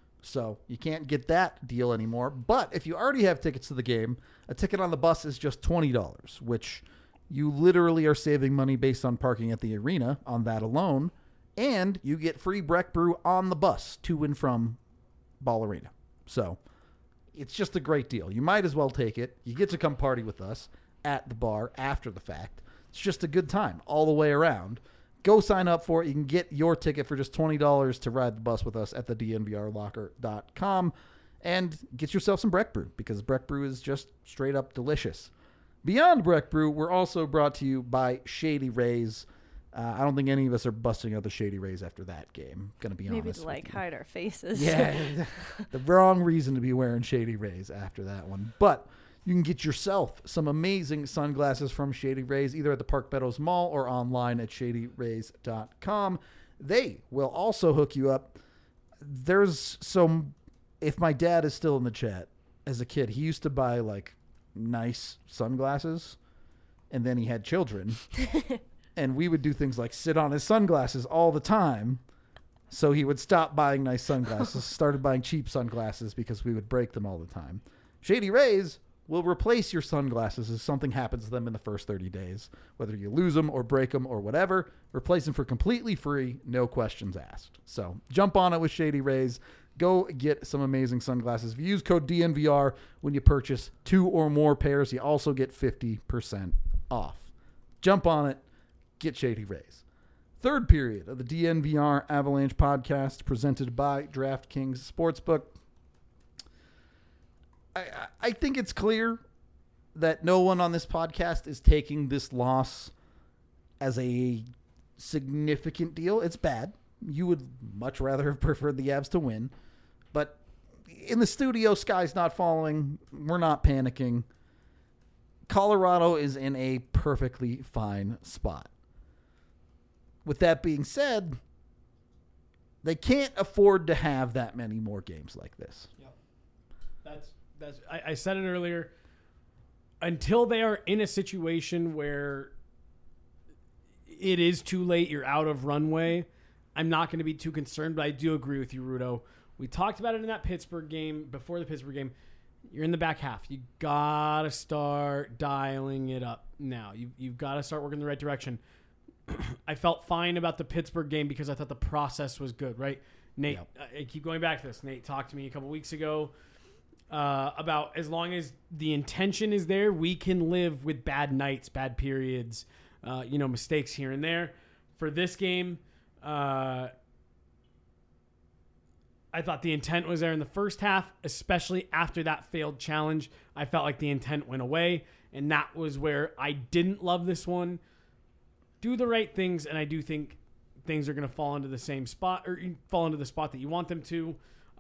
Speaker 1: so you can't get that deal anymore. But if you already have tickets to the game, a ticket on the bus is just $20, which you literally are saving money based on parking at the arena on that alone, and you get free Breck Brew on the bus to and from Ball Arena. So it's just a great deal. You might as well take it. You get to come party with us at the bar after the fact. It's just a good time all the way around. Go sign up for it. You can get your ticket for just $20 to ride the bus with us at the DNVRlocker.com and get yourself some Breck Brew, because Breck Brew is just straight up delicious. Beyond Breck Brew, we're also brought to you by Shady Rays. I don't think any of us are busting out the Shady Rays after that game. Gonna be honest.
Speaker 3: Maybe to hide our faces.
Speaker 1: Yeah, the wrong reason to be wearing Shady Rays after that one. But you can get yourself some amazing sunglasses from Shady Rays, either at the Park Meadows Mall or online at shadyrays.com. They will also hook you up. There's some, if my dad is still in the chat, as a kid, he used to buy like nice sunglasses, and then he had children. And we would do things like sit on his sunglasses all the time. So he would stop buying nice sunglasses, started buying cheap sunglasses because we would break them all the time. Shady Rays will replace your sunglasses if something happens to them in the first 30 days. Whether you lose them or break them or whatever, replace them for completely free, no questions asked. So jump on it with Shady Rays. Go get some amazing sunglasses. If you use code DNVR when you purchase 2 or more pairs, you also get 50% off. Jump on it. Get Shady Rays. Third period of the DNVR Avalanche podcast presented by DraftKings Sportsbook. I think it's clear that no one on this podcast is taking this loss as a significant deal. It's bad. You would much rather have preferred the Avs to win. But in the studio, sky's not falling. We're not panicking. Colorado is in a perfectly fine spot. With that being said, they can't afford to have that many more games like this.
Speaker 2: Yep. I said it earlier. Until they are in a situation where it is too late, you're out of runway, I'm not going to be too concerned, but I do agree with you, Rudo. We talked about it in that Pittsburgh game, before the Pittsburgh game. You're in the back half. You got to start dialing it up now. You've got to start working in the right direction. I felt fine about the Pittsburgh game because I thought the process was good, right? Nate, I keep going back to this. Nate talked to me a couple weeks ago about as long as the intention is there, we can live with bad nights, bad periods, mistakes here and there. For this game, I thought the intent was there in the first half, especially after that failed challenge. I felt like the intent went away, and that was where I didn't love this one. Do the right things, and I do think things are going to fall into the same spot, or fall into the spot that you want them to.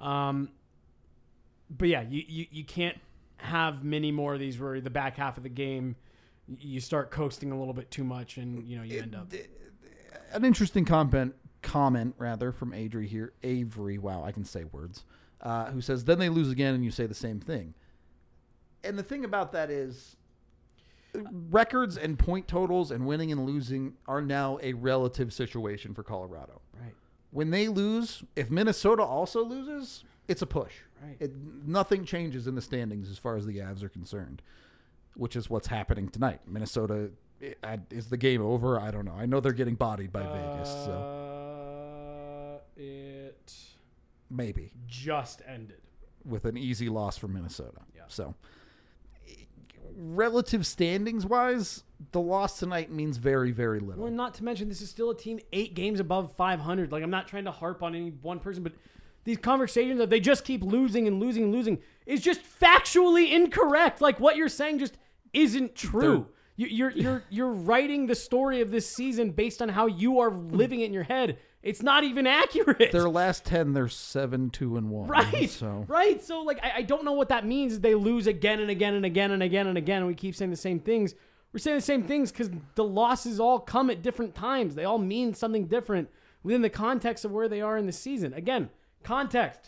Speaker 2: But yeah, you can't have many more of these where the back half of the game you start coasting a little bit too much, and you end up.
Speaker 1: An interesting comment from Avery. Wow, I can say words. Who says then they lose again, and you say the same thing. And the thing about that is, records and point totals and winning and losing are now a relative situation for Colorado.
Speaker 2: Right.
Speaker 1: When they lose, if Minnesota also loses, it's a push.
Speaker 2: Right.
Speaker 1: Nothing changes in the standings as far as the Avs are concerned, which is what's happening tonight. Minnesota, is the game over? I don't know. I know they're getting bodied by Vegas. So
Speaker 2: it
Speaker 1: maybe
Speaker 2: just ended
Speaker 1: with an easy loss for Minnesota.
Speaker 2: Yeah.
Speaker 1: So relative standings wise, the loss tonight means very, very little.
Speaker 2: Well, not to mention this is still a team 8 games above 500. Like, I'm not trying to harp on any one person, but these conversations that they just keep losing and losing and losing is just factually incorrect. Like, what you're saying just isn't true. You're writing the story of this season based on how you are living it in your head. It's not even accurate.
Speaker 1: Their last 10, they're 7-2-1.
Speaker 2: Right.
Speaker 1: So.
Speaker 2: Right. So, like, I don't know what that means. They lose again and again and again and again and again, and we keep saying the same things. We're saying the same things because the losses all come at different times. They all mean something different within the context of where they are in the season. Again, context.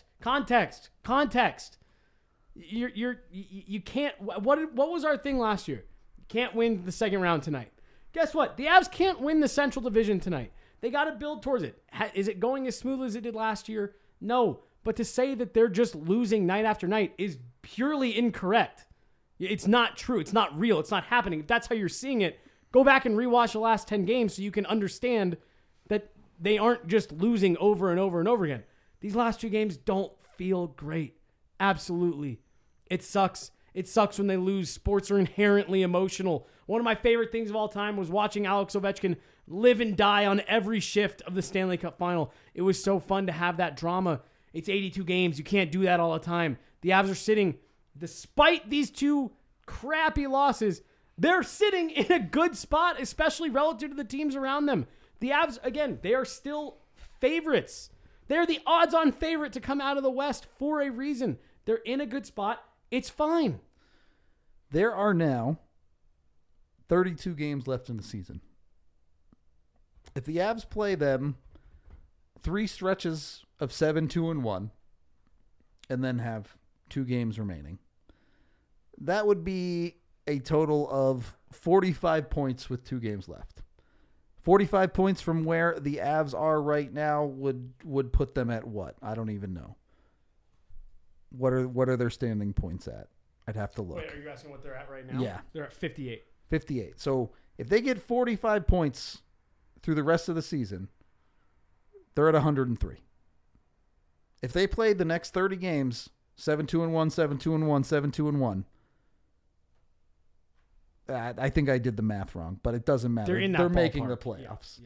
Speaker 2: You can't. What was our thing last year? You can't win the second round tonight. Guess what? The Avs can't win the Central Division tonight. They got to build towards it. Is it going as smooth as it did last year? No. But to say that they're just losing night after night is purely incorrect. It's not true. It's not real. It's not happening. If that's how you're seeing it, go back and rewatch the last 10 games so you can understand that they aren't just losing over and over and over again. These last 2 games don't feel great. Absolutely. It sucks. It sucks when they lose. Sports are inherently emotional. One of my favorite things of all time was watching Alex Ovechkin live and die on every shift of the Stanley Cup final. It was so fun to have that drama. It's 82 games. You can't do that all the time. The Avs are sitting, despite these 2 crappy losses, they're sitting in a good spot, especially relative to the teams around them. The Avs, again, they are still favorites. They're the odds-on favorite to come out of the West for a reason. They're in a good spot. It's fine.
Speaker 1: There are now 32 games left in the season. If the Avs play them 3 stretches of 7-2-1 and then have 2 games remaining, that would be a total of 45 points with 2 games left. 45 points from where the Avs are right now would put them at what? I don't even know. What are their standing points at? I'd have to look.
Speaker 2: Wait, are you asking what they're at right now?
Speaker 1: Yeah.
Speaker 2: They're at 58.
Speaker 1: 58. So if they get 45 points through the rest of the season, they're at 103. If they played the next 30 games, 7-2-1, 7-2-1, 7-2-1, I think I did the math wrong, but it doesn't matter.
Speaker 2: They're in that
Speaker 1: They're
Speaker 2: ballpark.
Speaker 1: making the playoffs.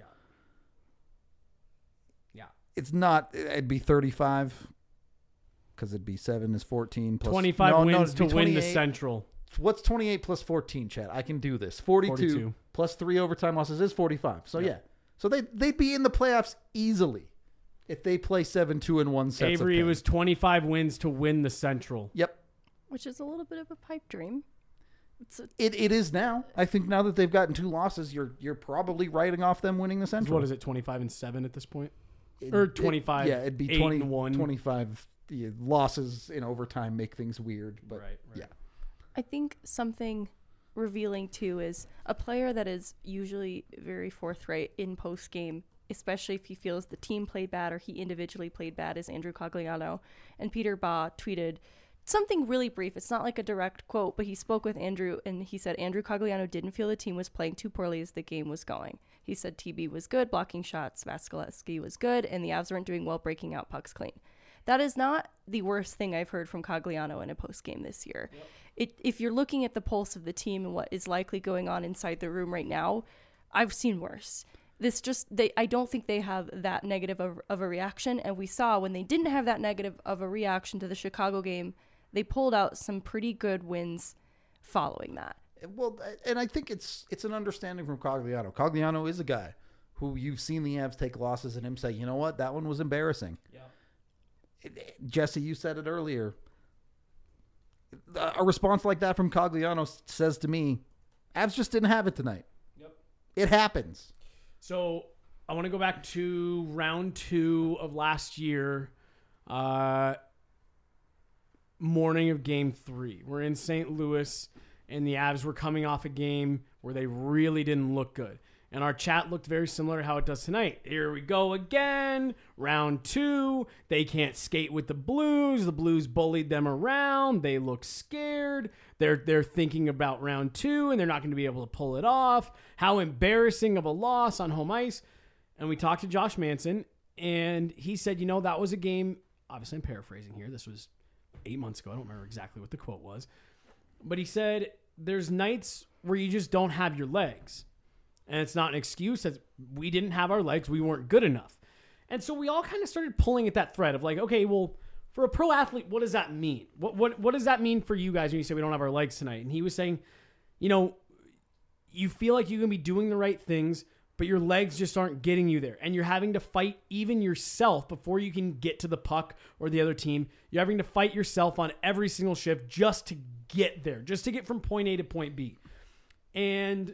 Speaker 2: Yeah.
Speaker 1: It's not, it'd be 35 because it'd be 7 is 14 plus
Speaker 2: 25 wins to
Speaker 1: it'd be
Speaker 2: win the
Speaker 1: 28.
Speaker 2: Central.
Speaker 1: What's 28 plus 14, Chad? I can do this. 42 plus 3 overtime losses is 45. So yeah. So they'd be in the playoffs easily. if they play 7-2 in one set.
Speaker 2: Avery, it was 25 wins to win the Central.
Speaker 1: Yep.
Speaker 3: Which is a little bit of a pipe dream.
Speaker 1: It is now. I think now that they've gotten 2 losses, you're probably writing off them winning the Central.
Speaker 2: What is it, 25-7 at this point? Or 25?
Speaker 1: Yeah, it'd be
Speaker 2: 8-1.
Speaker 1: 25 losses in overtime make things weird. But
Speaker 2: Right.
Speaker 1: yeah.
Speaker 3: I think something revealing too is a player that is usually very forthright in post game, especially if he feels the team played bad or he individually played bad, is Andrew Cogliano. And Peter Baugh tweeted something really brief. It's not like a direct quote, but he spoke with Andrew and he said Andrew Cogliano didn't feel the team was playing too poorly as the game was going. He said TB was good, blocking shots, Vasilevsky was good, and the Avs weren't doing well breaking out pucks clean. That is not the worst thing I've heard from Cogliano in a post game this year. Yep. If you're looking at the pulse of the team and what is likely going on inside the room right now, I've seen worse. I don't think they have that negative of a reaction, and we saw when they didn't have that negative of a reaction to the Chicago game, they pulled out some pretty good wins following that.
Speaker 1: Well, and I think it's an understanding from Cogliano. Cogliano is a guy who you've seen the Avs take losses and him say, you know what, that one was embarrassing. Yeah. Jesse, you said it earlier. A response like that from Cogliano says to me, Avs just didn't have it tonight. Yep. It happens.
Speaker 2: So I want to go back to round 2 of last year. Morning of game 3. We're in St. Louis, and the Avs were coming off a game where they really didn't look good. And our chat looked very similar to how it does tonight. Here we go again. Round 2. They can't skate with the Blues. The Blues bullied them around. They look scared. They're thinking about round 2, and they're not going to be able to pull it off. How embarrassing of a loss on home ice. And we talked to Josh Manson, and he said, that was a game. Obviously, I'm paraphrasing here. This was 8 months ago. I don't remember exactly what the quote was. But he said, there's nights where you just don't have your legs. And it's not an excuse that we didn't have our legs. We weren't good enough. And so we all kind of started pulling at that thread of like, okay, well, for a pro athlete, what does that mean? What does that mean for you guys when you say we don't have our legs tonight? And he was saying, you feel like you can be doing the right things, but your legs just aren't getting you there. And you're having to fight even yourself before you can get to the puck or the other team. You're having to fight yourself on every single shift just to get there, just to get from point A to point B. And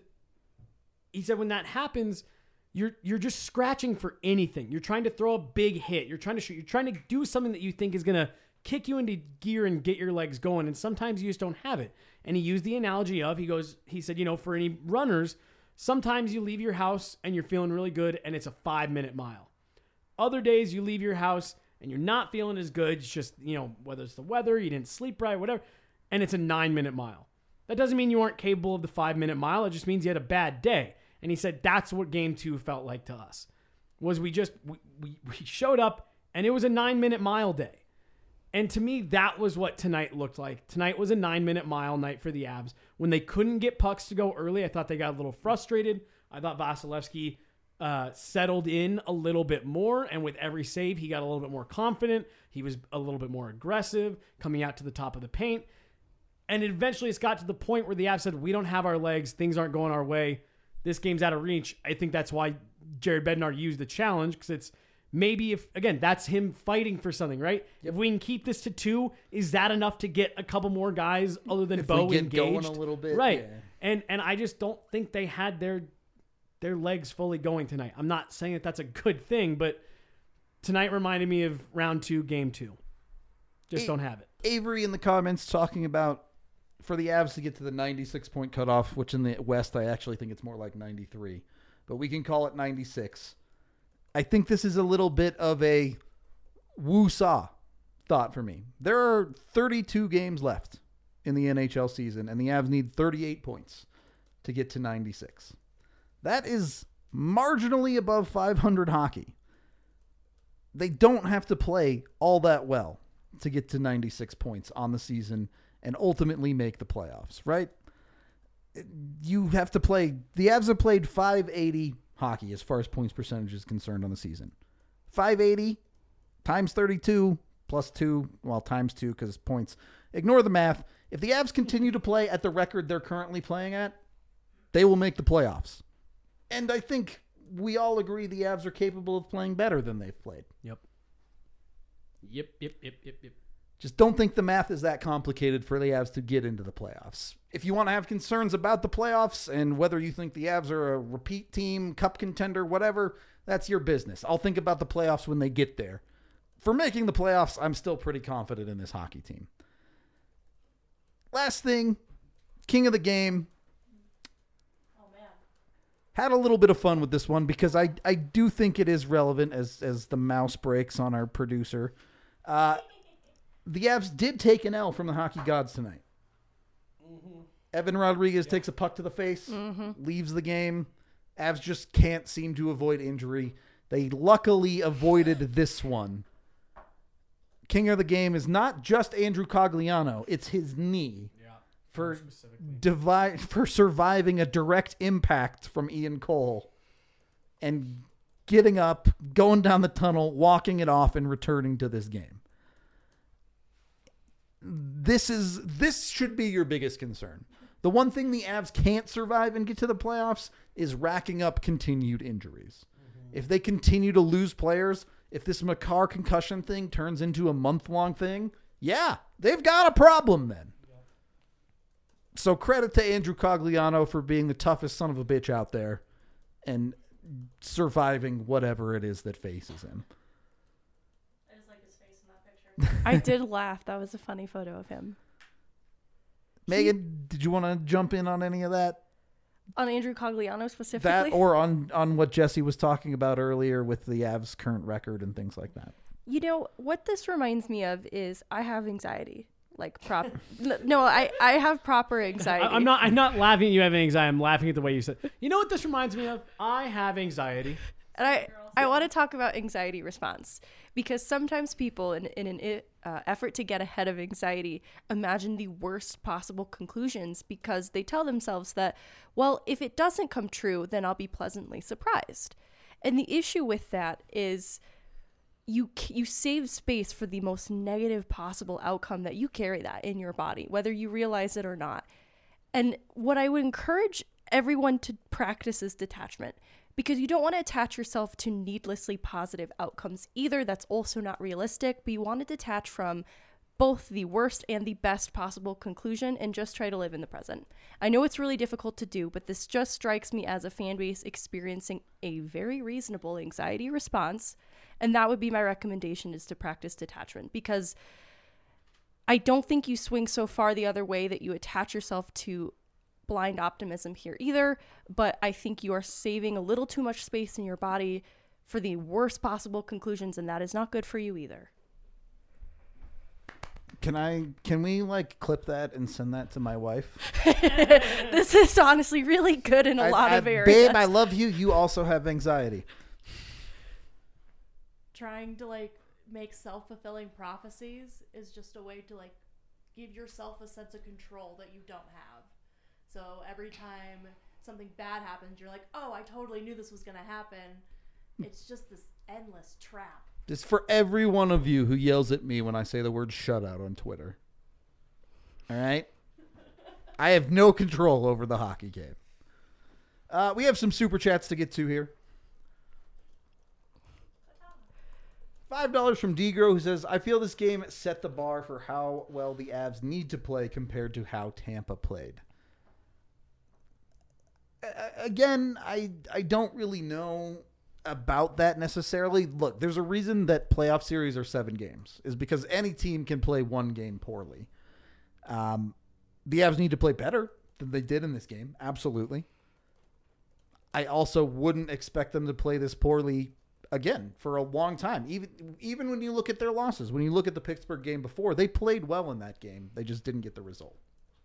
Speaker 2: he said when that happens, you're just scratching for anything. You're trying to throw a big hit. You're trying to shoot. You're trying to do something that you think is going to kick you into gear and get your legs going. And sometimes you just don't have it. And he used the analogy of, he said, for any runners, sometimes you leave your house and you're feeling really good and it's a 5-minute mile. Other days you leave your house and you're not feeling as good. It's just, whether it's the weather, you didn't sleep right, whatever, and it's a 9-minute mile. That doesn't mean you aren't capable of the 5-minute mile. It just means you had a bad day. And he said that's what game 2 felt like to us. Was we showed up and it was a 9-minute mile day. And to me, that was what tonight looked like. Tonight was a 9-minute mile night for the Avs. When they couldn't get pucks to go early, I thought they got a little frustrated. I thought Vasilevsky settled in a little bit more. And with every save, he got a little bit more confident. He was a little bit more aggressive, coming out to the top of the paint. And eventually it's got to the point where the Avs said, we don't have our legs. Things aren't going our way. This game's out of reach. I think that's why Jared Bednar used the challenge, because it's maybe that's him fighting for something, right? Yep. If we can keep this to 2, is that enough to get a couple more guys other than Bo engaged?
Speaker 1: Going a little bit.
Speaker 2: Right.
Speaker 1: Yeah.
Speaker 2: And I just don't think they had their legs fully going tonight. I'm not saying that that's a good thing, but tonight reminded me of round 2, game 2. Just don't have it.
Speaker 1: Avery in the comments talking about for the Avs to get to the 96-point cutoff, which in the West I actually think it's more like 93, but we can call it 96. I think this is a little bit of a woo-saw thought for me. There are 32 games left in the NHL season, and the Avs need 38 points to get to 96. That is marginally above 500 hockey. They don't have to play all that well to get to 96 points on the season and ultimately make the playoffs, right? You have to play. The Avs have played .580 hockey as far as points percentage is concerned on the season. .580 times 32 plus 2, well, times 2 because points. Ignore the math. If the Avs continue to play at the record they're currently playing at, they will make the playoffs. And I think we all agree the Avs are capable of playing better than they've played.
Speaker 2: Yep.
Speaker 1: Just don't think the math is that complicated for the Avs to get into the playoffs. If you want to have concerns about the playoffs and whether you think the Avs are a repeat team, cup contender, whatever, that's your business. I'll think about the playoffs when they get there. For making the playoffs, I'm still pretty confident in this hockey team. Last thing, king of the game. Had a little bit of fun with this one because I do think it is relevant as the mouse breaks on our producer. The Avs did take an L from the hockey gods tonight. Mm-hmm. Evan Rodriguez takes a puck to the face, leaves the game. Avs just can't seem to avoid injury. They luckily avoided this one. King of the game is not just Andrew Cogliano. It's his knee. For surviving a direct impact from Ian Cole and getting up, going down the tunnel, walking it off, and returning to this game. This should be your biggest concern. The one thing the Avs can't survive and get to the playoffs is racking up continued injuries. Mm-hmm. If they continue to lose players, if this Makar concussion thing turns into a month-long thing, yeah, they've got a problem then. So credit to Andrew Cogliano for being the toughest son of a bitch out there and surviving whatever it is that faces him.
Speaker 4: I just like his face in that picture.
Speaker 3: I did laugh. That was a funny photo of him.
Speaker 1: Megan, did you want to jump in on any of that?
Speaker 3: On Andrew Cogliano specifically?
Speaker 1: That or on what Jesse was talking about earlier with the Avs' current record and things like that?
Speaker 3: You know, what this reminds me of is I have anxiety. No, I have proper anxiety.
Speaker 2: I'm not laughing at you having anxiety. I'm laughing at the way you said. You know what this reminds me of? I have anxiety.
Speaker 3: And I want to talk about anxiety response because sometimes people in an effort to get ahead of anxiety imagine the worst possible conclusions because they tell themselves that, well, if it doesn't come true, then I'll be pleasantly surprised. And the issue with that is you save space for the most negative possible outcome that you carry that in your body, whether you realize it or not. And what I would encourage everyone to practice is detachment, because you don't want to attach yourself to needlessly positive outcomes either. That's also not realistic, but you want to detach from both the worst and the best possible conclusion and just try to live in the present. I know it's really difficult to do, but this just strikes me as a fan base experiencing a very reasonable anxiety response. And that would be my recommendation, is to practice detachment, because I don't think you swing so far the other way that you attach yourself to blind optimism here either, but I think you are saving a little too much space in your body for the worst possible conclusions, and that is not good for you either.
Speaker 1: Can we clip that and send that to my wife?
Speaker 3: This is honestly really good in a lot of areas.
Speaker 1: Babe, I love you. You also have anxiety.
Speaker 4: Trying to make self-fulfilling prophecies is just a way to give yourself a sense of control that you don't have. So every time something bad happens, you're like, oh, I totally knew this was going to happen. It's just this endless trap.
Speaker 1: Just for every one of you who yells at me when I say the word shutout on Twitter. All right? I have no control over the hockey game. We have some super chats to get to here. $5 from Degro, who says, I feel this game set the bar for how well the Avs need to play compared to how Tampa played. Again, I don't really know about that necessarily. Look, there's a reason that playoff series are 7 games, is because any team can play one game poorly. The Avs need to play better than they did in this game. Absolutely. I also wouldn't expect them to play this poorly again for a long time. Even when you look at their losses, when you look at the Pittsburgh game before, they played well in that game. They just didn't get the result.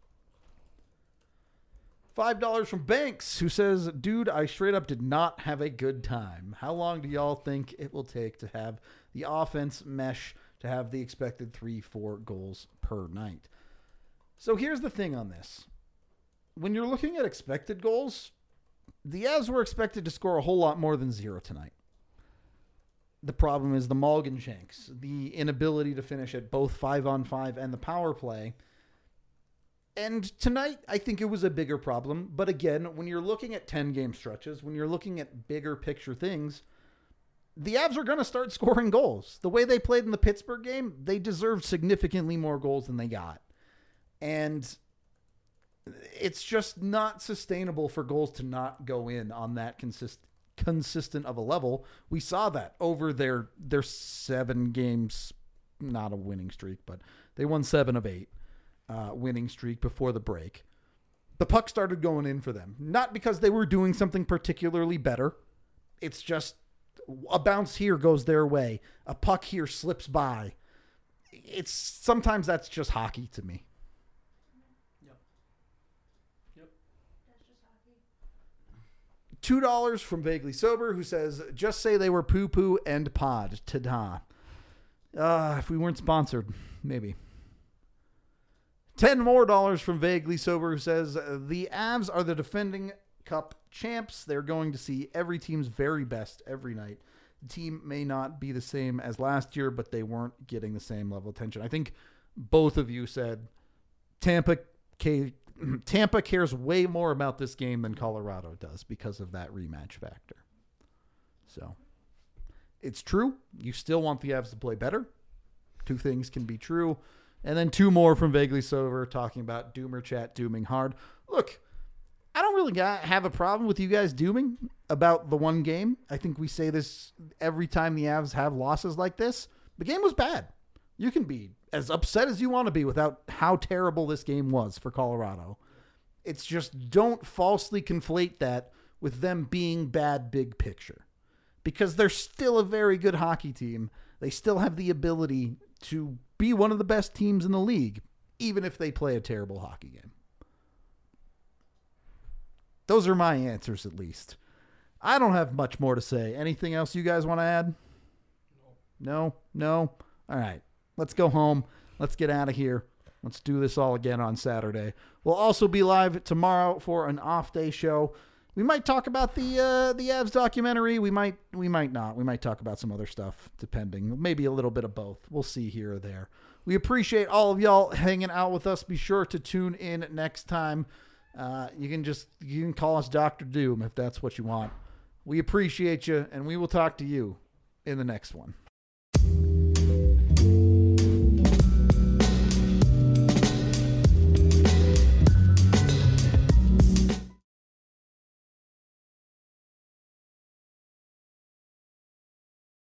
Speaker 1: $5 from Banks, who says, dude, I straight up did not have a good time. How long do y'all think it will take to have the offense mesh to have the expected 3-4 goals per night? So here's the thing on this. When you're looking at expected goals, the Avs were expected to score a whole lot more than 0 tonight. The problem is the Mulligan shanks, the inability to finish at both 5-on-5 and the power play. And tonight, I think it was a bigger problem. But again, when you're looking at 10-game stretches, when you're looking at bigger picture things, the Avs are going to start scoring goals. The way they played in the Pittsburgh game, they deserved significantly more goals than they got. And it's just not sustainable for goals to not go in on that consistent of a level. We saw that over their 7 games, not a winning streak, but they won 7 of 8 winning streak before the break. The puck started going in for them, not because they were doing something particularly better. It's just a bounce here goes their way. A puck here slips by. Sometimes that's just hockey to me. $2 from Vaguely Sober, who says, just say they were poo-poo and pod. Ta-da. If we weren't sponsored, maybe. $10 more from Vaguely Sober, who says, the Avs are the defending Cup champs. They're going to see every team's very best every night. The team may not be the same as last year, but they weren't getting the same level of attention. I think both of you said Tampa cares way more about this game than Colorado does because of that rematch factor. So it's true. You still want the Avs to play better. 2 things can be true. And then 2 more from Vaguely Sober talking about Doomer Chat dooming hard. Look, I don't really have a problem with you guys dooming about the one game. I think we say this every time the Avs have losses like this. The game was bad. You can be as upset as you want to be without how terrible this game was for Colorado. It's just don't falsely conflate that with them being bad big picture. Because they're still a very good hockey team. They still have the ability to be one of the best teams in the league, even if they play a terrible hockey game. Those are my answers, at least. I don't have much more to say. Anything else you guys want to add? No? All right. Let's go home. Let's get out of here. Let's do this all again on Saturday. We'll also be live tomorrow for an off-day show. We might talk about the Avs documentary. We might not. We might talk about some other stuff, depending. Maybe a little bit of both. We'll see here or there. We appreciate all of y'all hanging out with us. Be sure to tune in next time. You can call us Dr. Doom if that's what you want. We appreciate you, and we will talk to you in the next one.